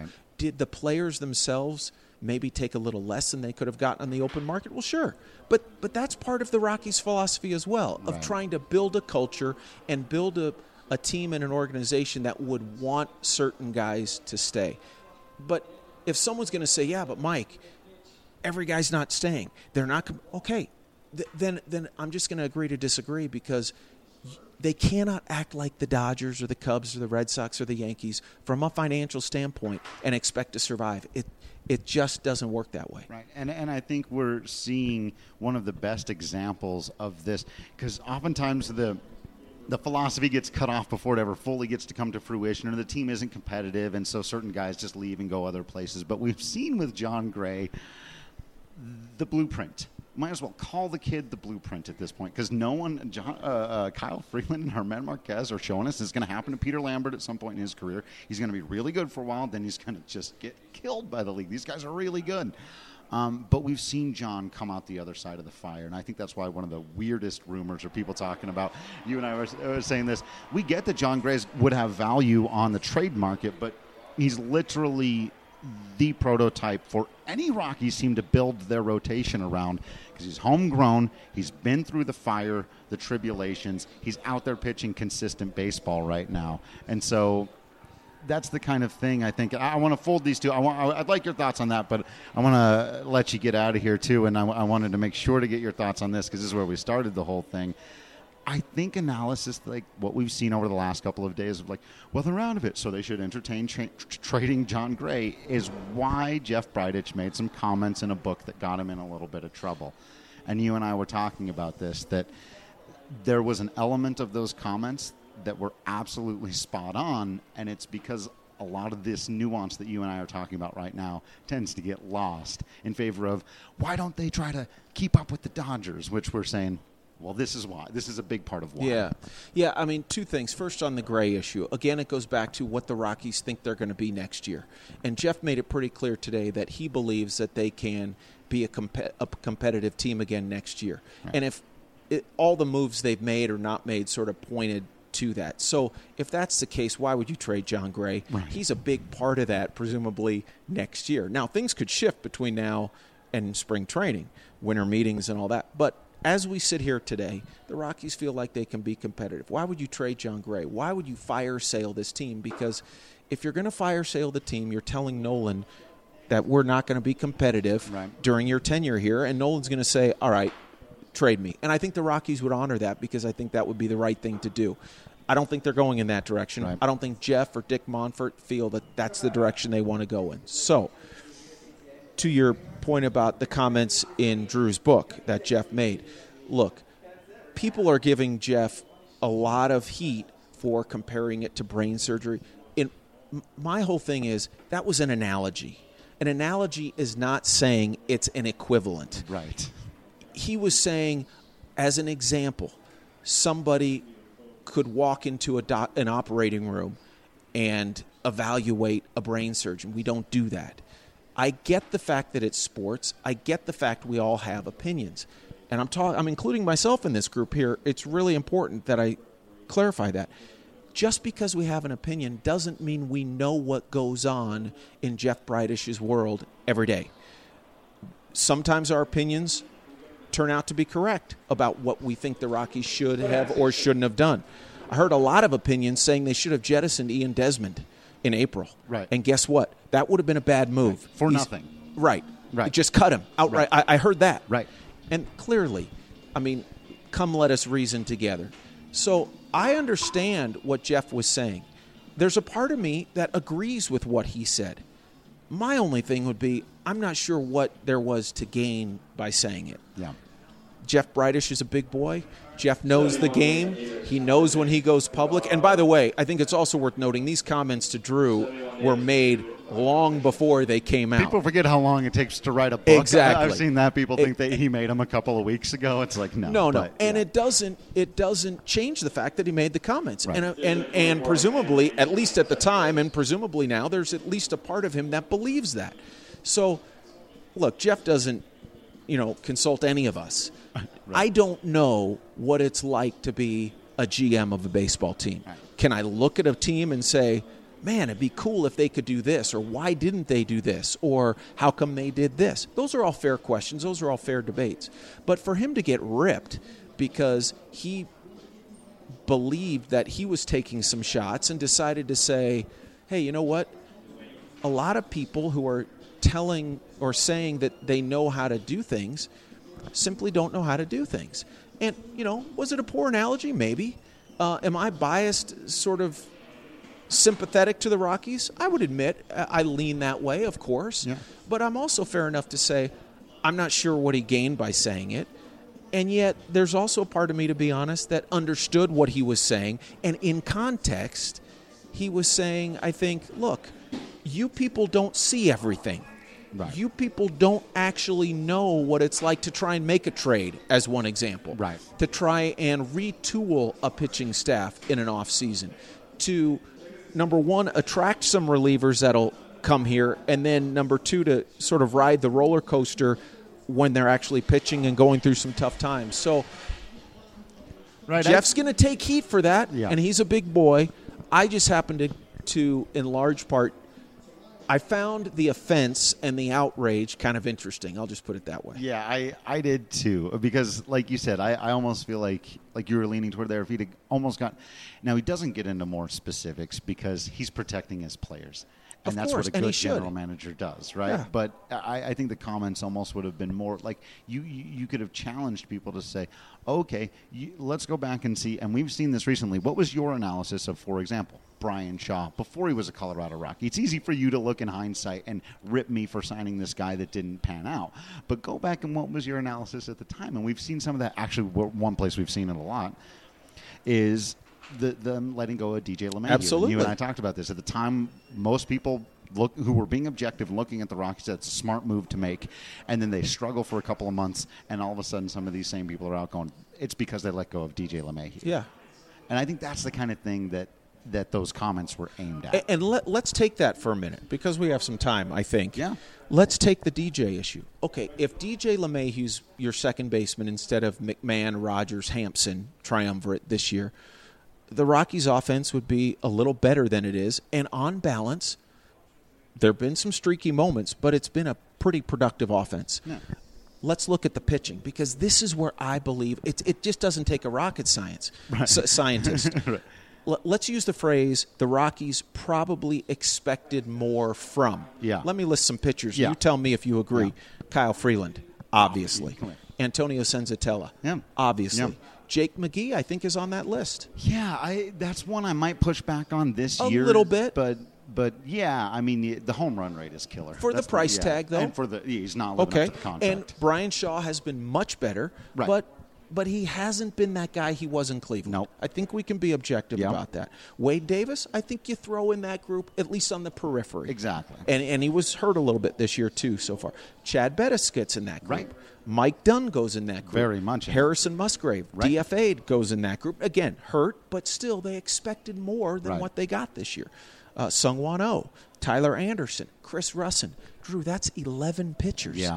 Did the players themselves maybe take a little less than they could have gotten on the open market? Well, sure. But but that's part of the Rockies' philosophy as well, of Right. trying to build a culture and build a, a team and an organization that would want certain guys to stay. But if someone's going to say, yeah, but Mike, every guy's not staying. They're not com-. Okay, th- then then I'm just going to agree to disagree, because they cannot act like the Dodgers or the Cubs or the Red Sox or the Yankees from a financial standpoint and expect to survive. It it just doesn't work that way. Right, and and I think we're seeing one of the best examples of this, because oftentimes the the philosophy gets cut off before it ever fully gets to come to fruition, or the team isn't competitive, and so certain guys just leave and go other places. But we've seen with Jon Gray the blueprint. Might as well call the kid the blueprint at this point, because no one, John, uh, uh, Kyle Freeland and Germán Marquez are showing us it's going to happen to Peter Lambert at some point in his career. He's going to be really good for a while, then he's going to just get killed by the league. These guys are really good. Um, but we've seen John come out the other side of the fire, and I think that's why one of the weirdest rumors or people talking about, you and I were, were saying this, we get that Jon Gray would have value on the trade market, but he's literally the prototype for any Rockies team to build their rotation around, because he's homegrown, he's been through the fire, the tribulations, he's out there pitching consistent baseball right now. And so that's the kind of thing I think. I want to fold these two. I want, I'd like your thoughts on that, but I want to let you get out of here too, and I, I wanted to make sure to get your thoughts on this, because this is where we started the whole thing. I think analysis like what we've seen over the last couple of days of like, well, they're out of it, so they should entertain tra- tr- trading Jon Gray, is why Jeff Bridich made some comments in a book that got him in a little bit of trouble. And you and I were talking about this, that there was an element of those comments that were absolutely spot on, and it's because a lot of this nuance that you and I are talking about right now tends to get lost in favor of, why don't they try to keep up with the Dodgers, which we're saying, well, this is why. This is a big part of why. Yeah. Yeah, I mean, two things. First, on the Gray issue. Again, it goes back to what the Rockies think they're going to be next year. And Jeff made it pretty clear today that he believes that they can be a, comp- a competitive team again next year. Right. And if it, all the moves they've made or not made sort of pointed to that. So if that's the case, why would you trade Jon Gray? Right. He's a big part of that, presumably, next year. Now, things could shift between now and spring training, winter meetings and all that. But as we sit here today, the Rockies feel like they can be competitive. Why would you trade Jon Gray? Why would you fire sale this team? Because if you're going to fire sale the team, you're telling Nolan that we're not going to be competitive right. during your tenure here, and Nolan's going to say, all right, trade me. And I think the Rockies would honor that, because I think that would be the right thing to do. I don't think they're going in that direction. Right. I don't think Jeff or Dick Monfort feel that that's the direction they want to go in. So, to your point about the comments in Drew's book that Jeff made, look, people are giving Jeff a lot of heat for comparing it to brain surgery. In, my whole thing is that was an analogy. An analogy is not saying it's an equivalent. Right. He was saying, as an example, somebody could walk into a do- an operating room and evaluate a brain surgeon. We don't do that. I get the fact that it's sports. I get the fact we all have opinions. And I'm ta- I'm including myself in this group here. It's really important that I clarify that. Just because we have an opinion doesn't mean we know what goes on in Jeff Bridich's world every day. Sometimes our opinions turn out to be correct about what we think the Rockies should have or shouldn't have done. I heard a lot of opinions saying they should have jettisoned Ian Desmond in April. Right. And guess what? That would have been a bad move. Right. For He's, nothing. Right. Right. Just cut him outright. Right. I, I heard that. Right. And clearly, I mean, come let us reason together. So I understand what Jeff was saying. There's a part of me that agrees with what he said. My only thing would be, I'm not sure what there was to gain by saying it. Yeah. Jeff Bridich is a big boy. Jeff knows the game. He knows when he goes public. And by the way, I think it's also worth noting these comments to Drew were made long before they came out. People forget how long it takes to write a book. Exactly. I've seen that. People it, think that he made them a couple of weeks ago. It's like, no. No, no. But, and yeah. it doesn't it doesn't change the fact that he made the comments. Right. And, uh, and, and presumably, at least at the time, and presumably now, there's at least a part of him that believes that. So, look, Jeff doesn't, you know, consult any of us. Right. I don't know what it's like to be a G M of a baseball team. Right. Can I look at a team and say, man, it'd be cool if they could do this, or why didn't they do this, or how come they did this? Those are all fair questions. Those are all fair debates. But for him to get ripped because he believed that he was taking some shots and decided to say, hey, you know what? A lot of people who are telling or saying that they know how to do things simply don't know how to do things. And, you know, was it a poor analogy? Maybe. Uh, am I biased, sort of sympathetic to the Rockies? I would admit I lean that way, of course. Yeah. But I'm also fair enough to say I'm not sure what he gained by saying it. And yet there's also a part of me, to be honest, that understood what he was saying. And in context, he was saying, I think, look, you people don't see everything. Right. You people don't actually know what it's like to try and make a trade, as one example. Right. To try and retool a pitching staff in an off season. To, number one, attract some relievers that'll come here, and then number two, to sort of ride the roller coaster when they're actually pitching and going through some tough times. So right, Jeff's going to take heat for that, yeah. and he's a big boy. I just happen to, to, in large part, I found the offense and the outrage kind of interesting. I'll just put it that way. Yeah, I, I did too. Because, like you said, I, I almost feel like like you were leaning toward there. If he'd almost got, now he doesn't get into more specifics because he's protecting his players, and Of that's course, what a and he good should. general manager does, right? Yeah. But I, I think the comments almost would have been more like you you, you could have challenged people to say, okay, you, let's go back and see. And we've seen this recently. What was your analysis of, for example, Brian Shaw before he was a Colorado Rocky? It's easy for you to look in hindsight and rip me for signing this guy that didn't pan out. But go back and what was your analysis at the time? And we've seen some of that. Actually, one place we've seen it a lot is the them letting go of D J LeMahieu. Absolutely. You and I talked about this. At the time, most people look who were being objective and looking at the Rockies, that's a smart move to make. And then they struggle for a couple of months, and all of a sudden some of these same people are out going, it's because they let go of D J LeMahieu. Yeah. And I think that's the kind of thing that that those comments were aimed at. And, and let, let's take that for a minute, because we have some time, I think. Yeah. Let's take the D J issue. Okay, if D J LeMahieu's your second baseman instead of McMahon, Rogers, Hampson triumvirate this year, the Rockies' offense would be a little better than it is. And on balance, there have been some streaky moments, but it's been a pretty productive offense. Yeah. Let's look at the pitching, because this is where I believe it, it just doesn't take a rocket science Right. s- scientist. Right. L- let's use the phrase the Rockies probably expected more from. Yeah. Let me list some pitchers. Yeah. You tell me if you agree. Yeah. Kyle Freeland, obviously. Come here. Antonio Senzatella, Yeah. obviously. Yeah. Jake McGee, I think, is on that list. Yeah, I that's one I might push back on this A year. little bit. But but yeah, I mean, the, the home run rate is killer. For the That's price yeah. tag, though? And for the, he's not living Okay. up to the contract. And Brian Shaw has been much better, Right. but but he hasn't been that guy he was in Cleveland. Nope. I think we can be objective Yep. about that. Wade Davis, I think you throw in that group, at least on the periphery. Exactly. And and he was hurt a little bit this year, too, so far. Chad Bettis gets in that group. Right. Mike Dunn goes in that group. Very much in. Harrison Musgrave, Right. D F A'd, goes in that group. Again, hurt, but still they expected more than Right. what they got this year. Uh, Sungwon Oh, Tyler Anderson, Chris Russin. Drew, that's eleven pitchers. Yeah.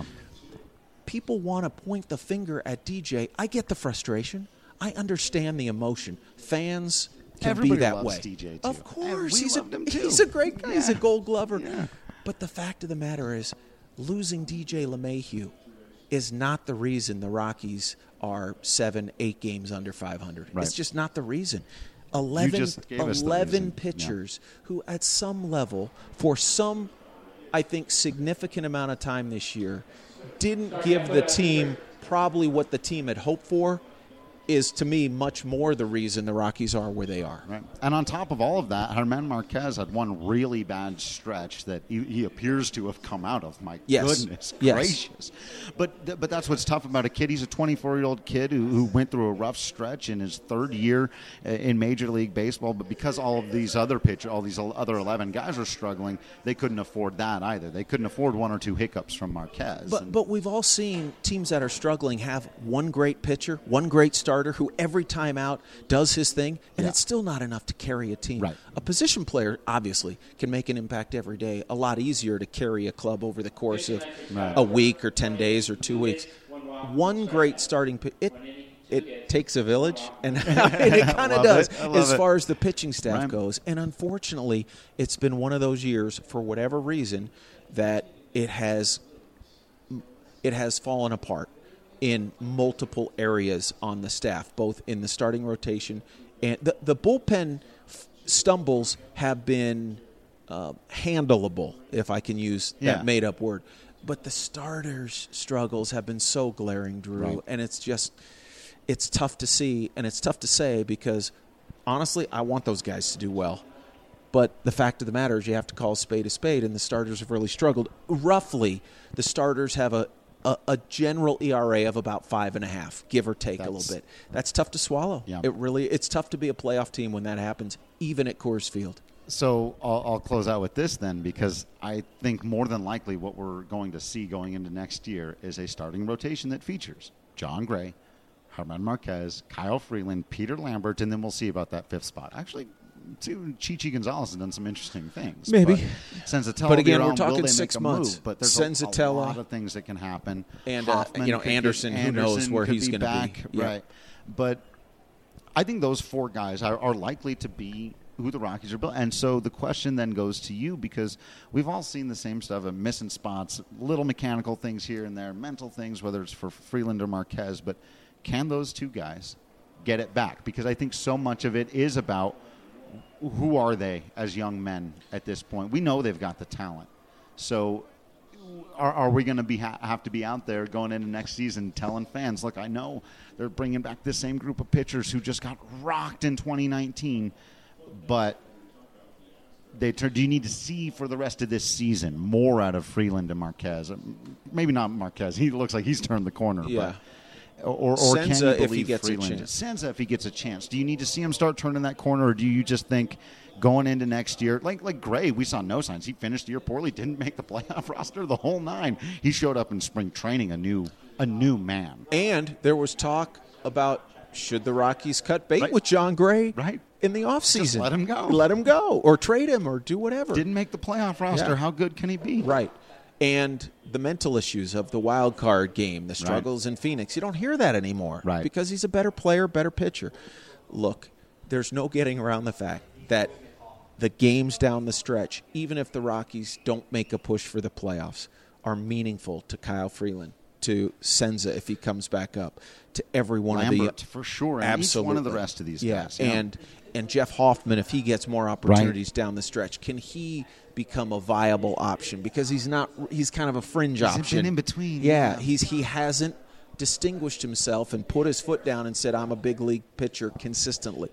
People want to point the finger at D J. I get the frustration. I understand the emotion. Fans can Everybody be that loves way. D J too. Of course, We he's loved a him too. he's a great guy. He's a Yeah. Gold Glover. Yeah. But the fact of the matter is, losing D J LeMahieu is not the reason the Rockies are seven, eight games under five hundred. Right. It's just not the reason. Eleven, just gave us the eleven reason. pitchers who, at some level, for some, I think, significant amount of time this year, didn't give the team probably what the team had hoped for, is, to me, much more the reason the Rockies are where they are. Right. And on top of all of that, Germán Marquez had one really bad stretch that he, he appears to have come out of. My Yes. goodness Yes. gracious. But th- but that's what's tough about a kid. He's a twenty-four-year-old kid who, who went through a rough stretch in his third year uh, in Major League Baseball. But because all of these other pitchers, all these other eleven guys are struggling, they couldn't afford that either. They couldn't afford one or two hiccups from Marquez. But And- but we've all seen teams that are struggling have one great pitcher, one great starter who every time out does his thing, and Yeah. it's still not enough to carry a team. Right. A position player, obviously, can make an impact every day. A lot easier to carry a club over the course of Right. a week or ten days or two weeks. One great starting pitcher, it it takes a village, and it kind of does it. as it. far as the pitching staff Right. goes. And unfortunately, it's been one of those years, for whatever reason, that it has it has fallen apart in multiple areas on the staff, both in the starting rotation and the, the bullpen f- stumbles have been uh, handleable, if I can use Yeah. that made-up word. But the starters' struggles have been so glaring, Drew, Right. and it's just it's tough to see, and it's tough to say because, honestly, I want those guys to do well. But the fact of the matter is you have to call a spade a spade, and the starters have really struggled. Roughly, the starters have a, a, a general E R A of about five and a half, give or take That's, a little bit. That's tough to swallow. Yeah. It really it's tough to be a playoff team when that happens, even at Coors Field. So I'll, I'll close out with this then, because I think more than likely what we're going to see going into next year is a starting rotation that features Jon Gray, German Marquez, Kyle Freeland, Peter Lambert, and then we'll see about that fifth spot. Actually, too, Chichi Gonzalez has done some interesting things. Maybe. But Senzatella, But again, will we're talking they make six a months. Move? But there's Senzatella. a, a lot of things that can happen. And, uh, Hoffman you know, could get- Anderson, who knows Anderson where could he's be gonna be. back, Yeah. Right. But I think those four guys are, are likely to be who the Rockies are built. And so the question then goes to you, because we've all seen the same stuff of missing spots, little mechanical things here and there, mental things, whether it's for Freeland or Marquez. But can those two guys get it back? Because I think so much of it is about who are they as young men at this point. We know they've got the talent. So are, are we going to be ha- have to be out there going into next season telling fans, look, I know they're bringing back the same group of pitchers who just got rocked in twenty nineteen, but they turn, do you need to see for the rest of this season more out of Freeland and Marquez? Maybe not Marquez. He looks like he's turned the corner. Yeah. But, or or can Senza, you if he believe gets a Freeland? chance. Senza, if he gets a chance. Do you need to see him start turning that corner, or do you just think going into next year, like like Gray, we saw no signs. He finished the year poorly, didn't make the playoff roster, the whole nine. He showed up in spring training a new a new man. And there was talk about should the Rockies cut bait Right. with Jon Gray Right. in the offseason. Just let him go. Let him go. Or trade him or do whatever. Didn't make the playoff roster. Yeah. How good can he be? Right. And the mental issues of the wild card game, the struggles in Phoenix, you don't hear that anymore. Right. Because he's a better player, better pitcher. Look, there's no getting around the fact that the games down the stretch, even if the Rockies don't make a push for the playoffs, are meaningful to Kyle Freeland, to Senza if he comes back up, to every one Lambert, of the for sure, and absolutely. each one of the rest of these yeah. guys. Yeah. And and Jeff Hoffman, if he gets more opportunities down the stretch, can he become a viable option? Because he's not. He's kind of a fringe He's option. been in between. Yeah, Yeah. he's he hasn't distinguished himself and put his foot down and said, "I'm a big league pitcher consistently."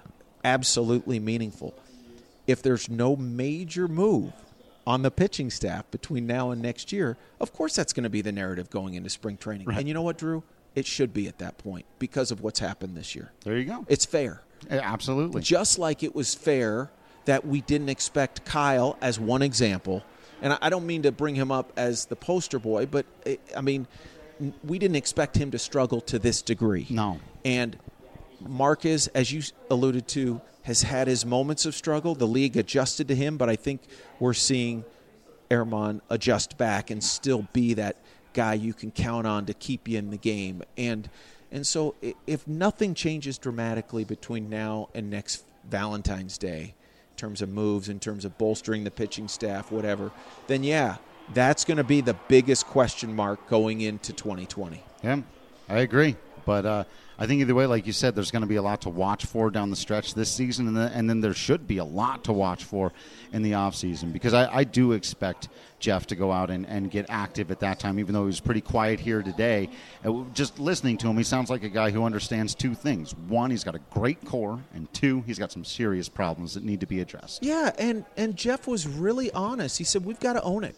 Absolutely meaningful. If there's no major move on the pitching staff between now and next year, of course that's going to be the narrative going into spring training. Right. And you know what, Drew? It should be at that point because of what's happened this year. There you go. It's fair. Yeah, absolutely. Just like it was fair that we didn't expect Kyle, as one example, and I don't mean to bring him up as the poster boy, but, I mean, we didn't expect him to struggle to this degree. No. And Marquez, as you alluded to, has had his moments of struggle. The league adjusted to him, but I think we're seeing Erman adjust back and still be that guy you can count on to keep you in the game. And and so if nothing changes dramatically between now and next Valentine's Day, in terms of moves, in terms of bolstering the pitching staff, whatever, then yeah, that's going to be the biggest question mark going into twenty twenty. Yeah, I agree. But uh, I think either way, like you said, there's going to be a lot to watch for down the stretch this season, and, the, and then there should be a lot to watch for in the offseason, because I, I do expect Jeff to go out and, and get active at that time, even though he was pretty quiet here today. Uh, just listening to him, he sounds like a guy who understands two things. One, he's got a great core, and two, he's got some serious problems that need to be addressed. Yeah, and, and Jeff was really honest. He said, we've got to own it.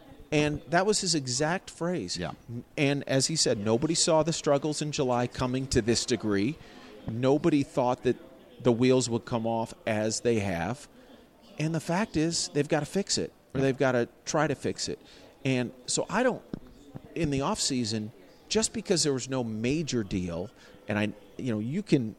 And that was his exact phrase. Yeah. And as he said, nobody saw the struggles in July coming to this degree. Nobody thought that the wheels would come off as they have. And the fact is, they've got to fix it, or they've got to try to fix it. And so I don't, in the offseason, just because there was no major deal, and I, you know, you can,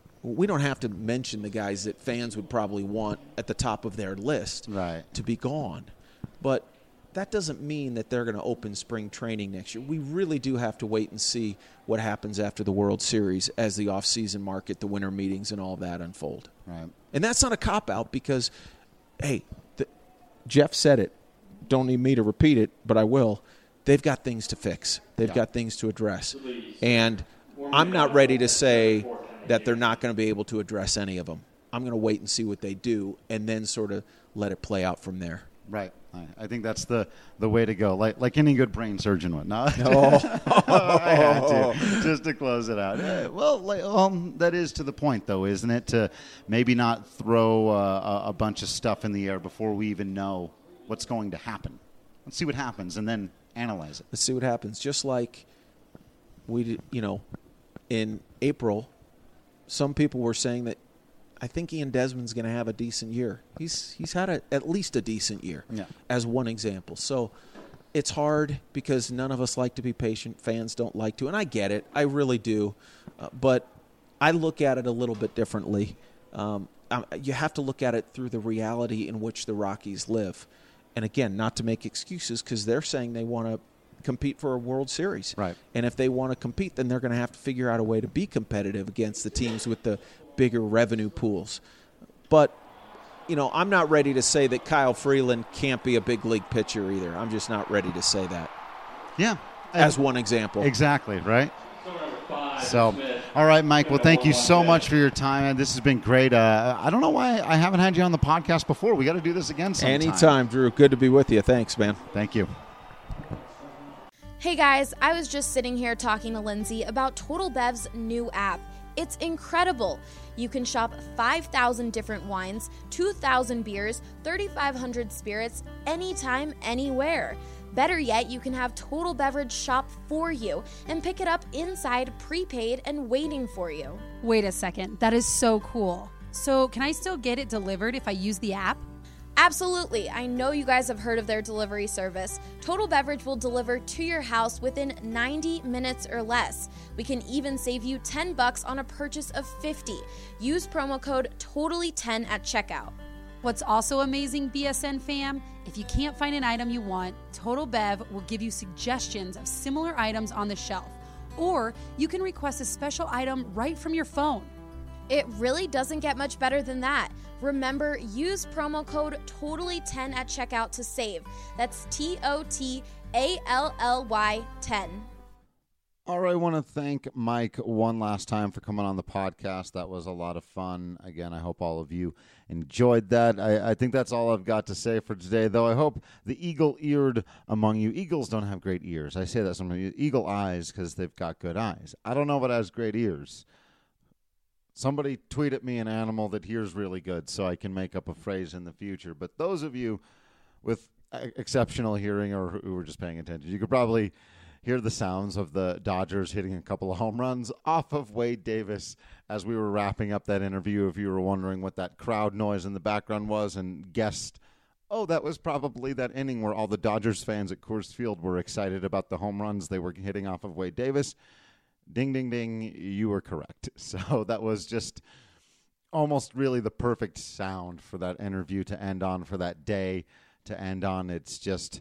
we don't have to mention the guys that fans would probably want at the top of their list Right. to be gone. But that doesn't mean that they're going to open spring training next year. We really do have to wait and see what happens after the World Series as the off-season market, the winter meetings, and all of that unfold. Right. And that's not a cop-out because, hey, the, Jeff said it. Don't need me to repeat it, but I will. They've got things to fix. They've yeah. got things to address. And I'm not ready to say that they're not going to be able to address any of them. I'm going to wait and see what they do and then sort of let it play out from there. Right. I think that's the, the way to go, like like any good brain surgeon would. No, oh. I had to, just to close it out. Yeah, well, like, um, that is to the point, though, isn't it? To maybe not throw uh, a, a bunch of stuff in the air before we even know what's going to happen. Let's see what happens and then analyze it. Let's see what happens. Just like we, did, you know, in April, some people were saying that I think Ian Desmond's going to have a decent year. He's he's had a, at least a decent year, yeah. as one example. So it's hard because none of us like to be patient. Fans don't like to, and I get it. I really do. Uh, but I look at it a little bit differently. Um, I, you have to look at it through the reality in which the Rockies live. And again, not to make excuses because they're saying they want to compete for a World Series. Right. And if they want to compete, then they're going to have to figure out a way to be competitive against the teams with the bigger revenue pools. But, you know, I'm not ready to say that Kyle Freeland can't be a big league pitcher either. I'm just not ready to say that. Yeah. As one example. Exactly, right? So, all right, Mike. Well, thank you so much for your time. This has been great. Uh, I don't know why I haven't had you on the podcast before. We got to do this again sometime. Anytime, Drew. Good to be with you. Thanks, man. Thank you. Hey, guys. I was just sitting here talking to Lindsay about Total Bev's new app. It's incredible. You can shop five thousand different wines, two thousand beers, thirty-five hundred spirits, anytime, anywhere. Better yet, you can have Total Beverage shop for you and pick it up inside, prepaid, and waiting for you. Wait a second. That is so cool. So can I still get it delivered if I use the app? Absolutely. I know you guys have heard of their delivery service. Total Beverage will deliver to your house within ninety minutes or less. We can even save you ten bucks on a purchase of fifty. Use promo code totally ten at checkout. What's also amazing, B S N fam, if you can't find an item you want, Total Bev will give you suggestions of similar items on the shelf. Or you can request a special item right from your phone. It really doesn't get much better than that. Remember, use promo code totally ten at checkout to save. That's T O T A L L Y ten. All right, I want to thank Mike one last time for coming on the podcast. That was a lot of fun. Again, I hope all of you enjoyed that. I, I think that's all I've got to say for today, though. I hope the eagle-eared among you. Eagles don't have great ears. I say that sometimes. Eagle eyes because they've got good eyes. I don't know what has great ears. Somebody tweet at me an animal that hears really good so I can make up a phrase in the future. But those of you with exceptional hearing or who were just paying attention, you could probably hear the sounds of the Dodgers hitting a couple of home runs off of Wade Davis as we were wrapping up that interview. If you were wondering what that crowd noise in the background was and guessed, oh, that was probably that inning where all the Dodgers fans at Coors Field were excited about the home runs they were hitting off of Wade Davis. Ding, ding, ding, you were correct. So that was just almost really the perfect sound for that interview to end on, for that day to end on. It's just,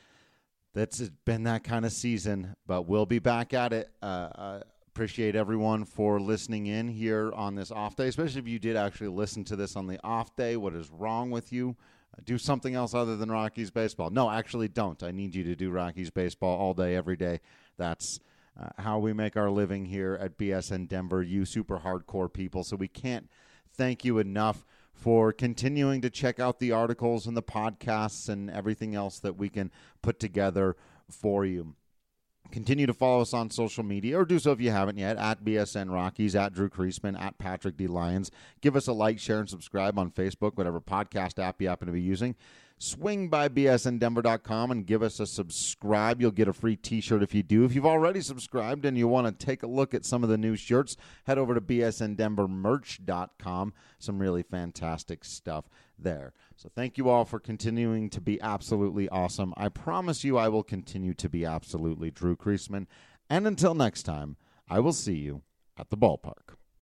that's been that kind of season, but we'll be back at it. Uh, I appreciate everyone for listening in here on this off day, especially if you did actually listen to this on the off day. What is wrong with you? Uh, do something else other than Rockies baseball. No, actually don't. I need you to do Rockies baseball all day, every day. That's Uh, how we make our living here at B S N Denver, you super hardcore people. So we can't thank you enough for continuing to check out the articles and the podcasts and everything else that we can put together for you. Continue to follow us on social media, or do so if you haven't yet, at B S N Rockies, at Drew Creasman, at Patrick D. Lyons. Give us a like, share, and subscribe on Facebook, whatever podcast app you happen to be using. Swing by B S N Denver dot com and give us a subscribe. You'll get a free t-shirt if you do. If you've already subscribed and you want to take a look at some of the new shirts, head over to B S N Denver merch dot com. Some really fantastic stuff there. So thank you all for continuing to be absolutely awesome. I promise you I will continue to be absolutely Drew Creasman. And until next time, I will see you at the ballpark.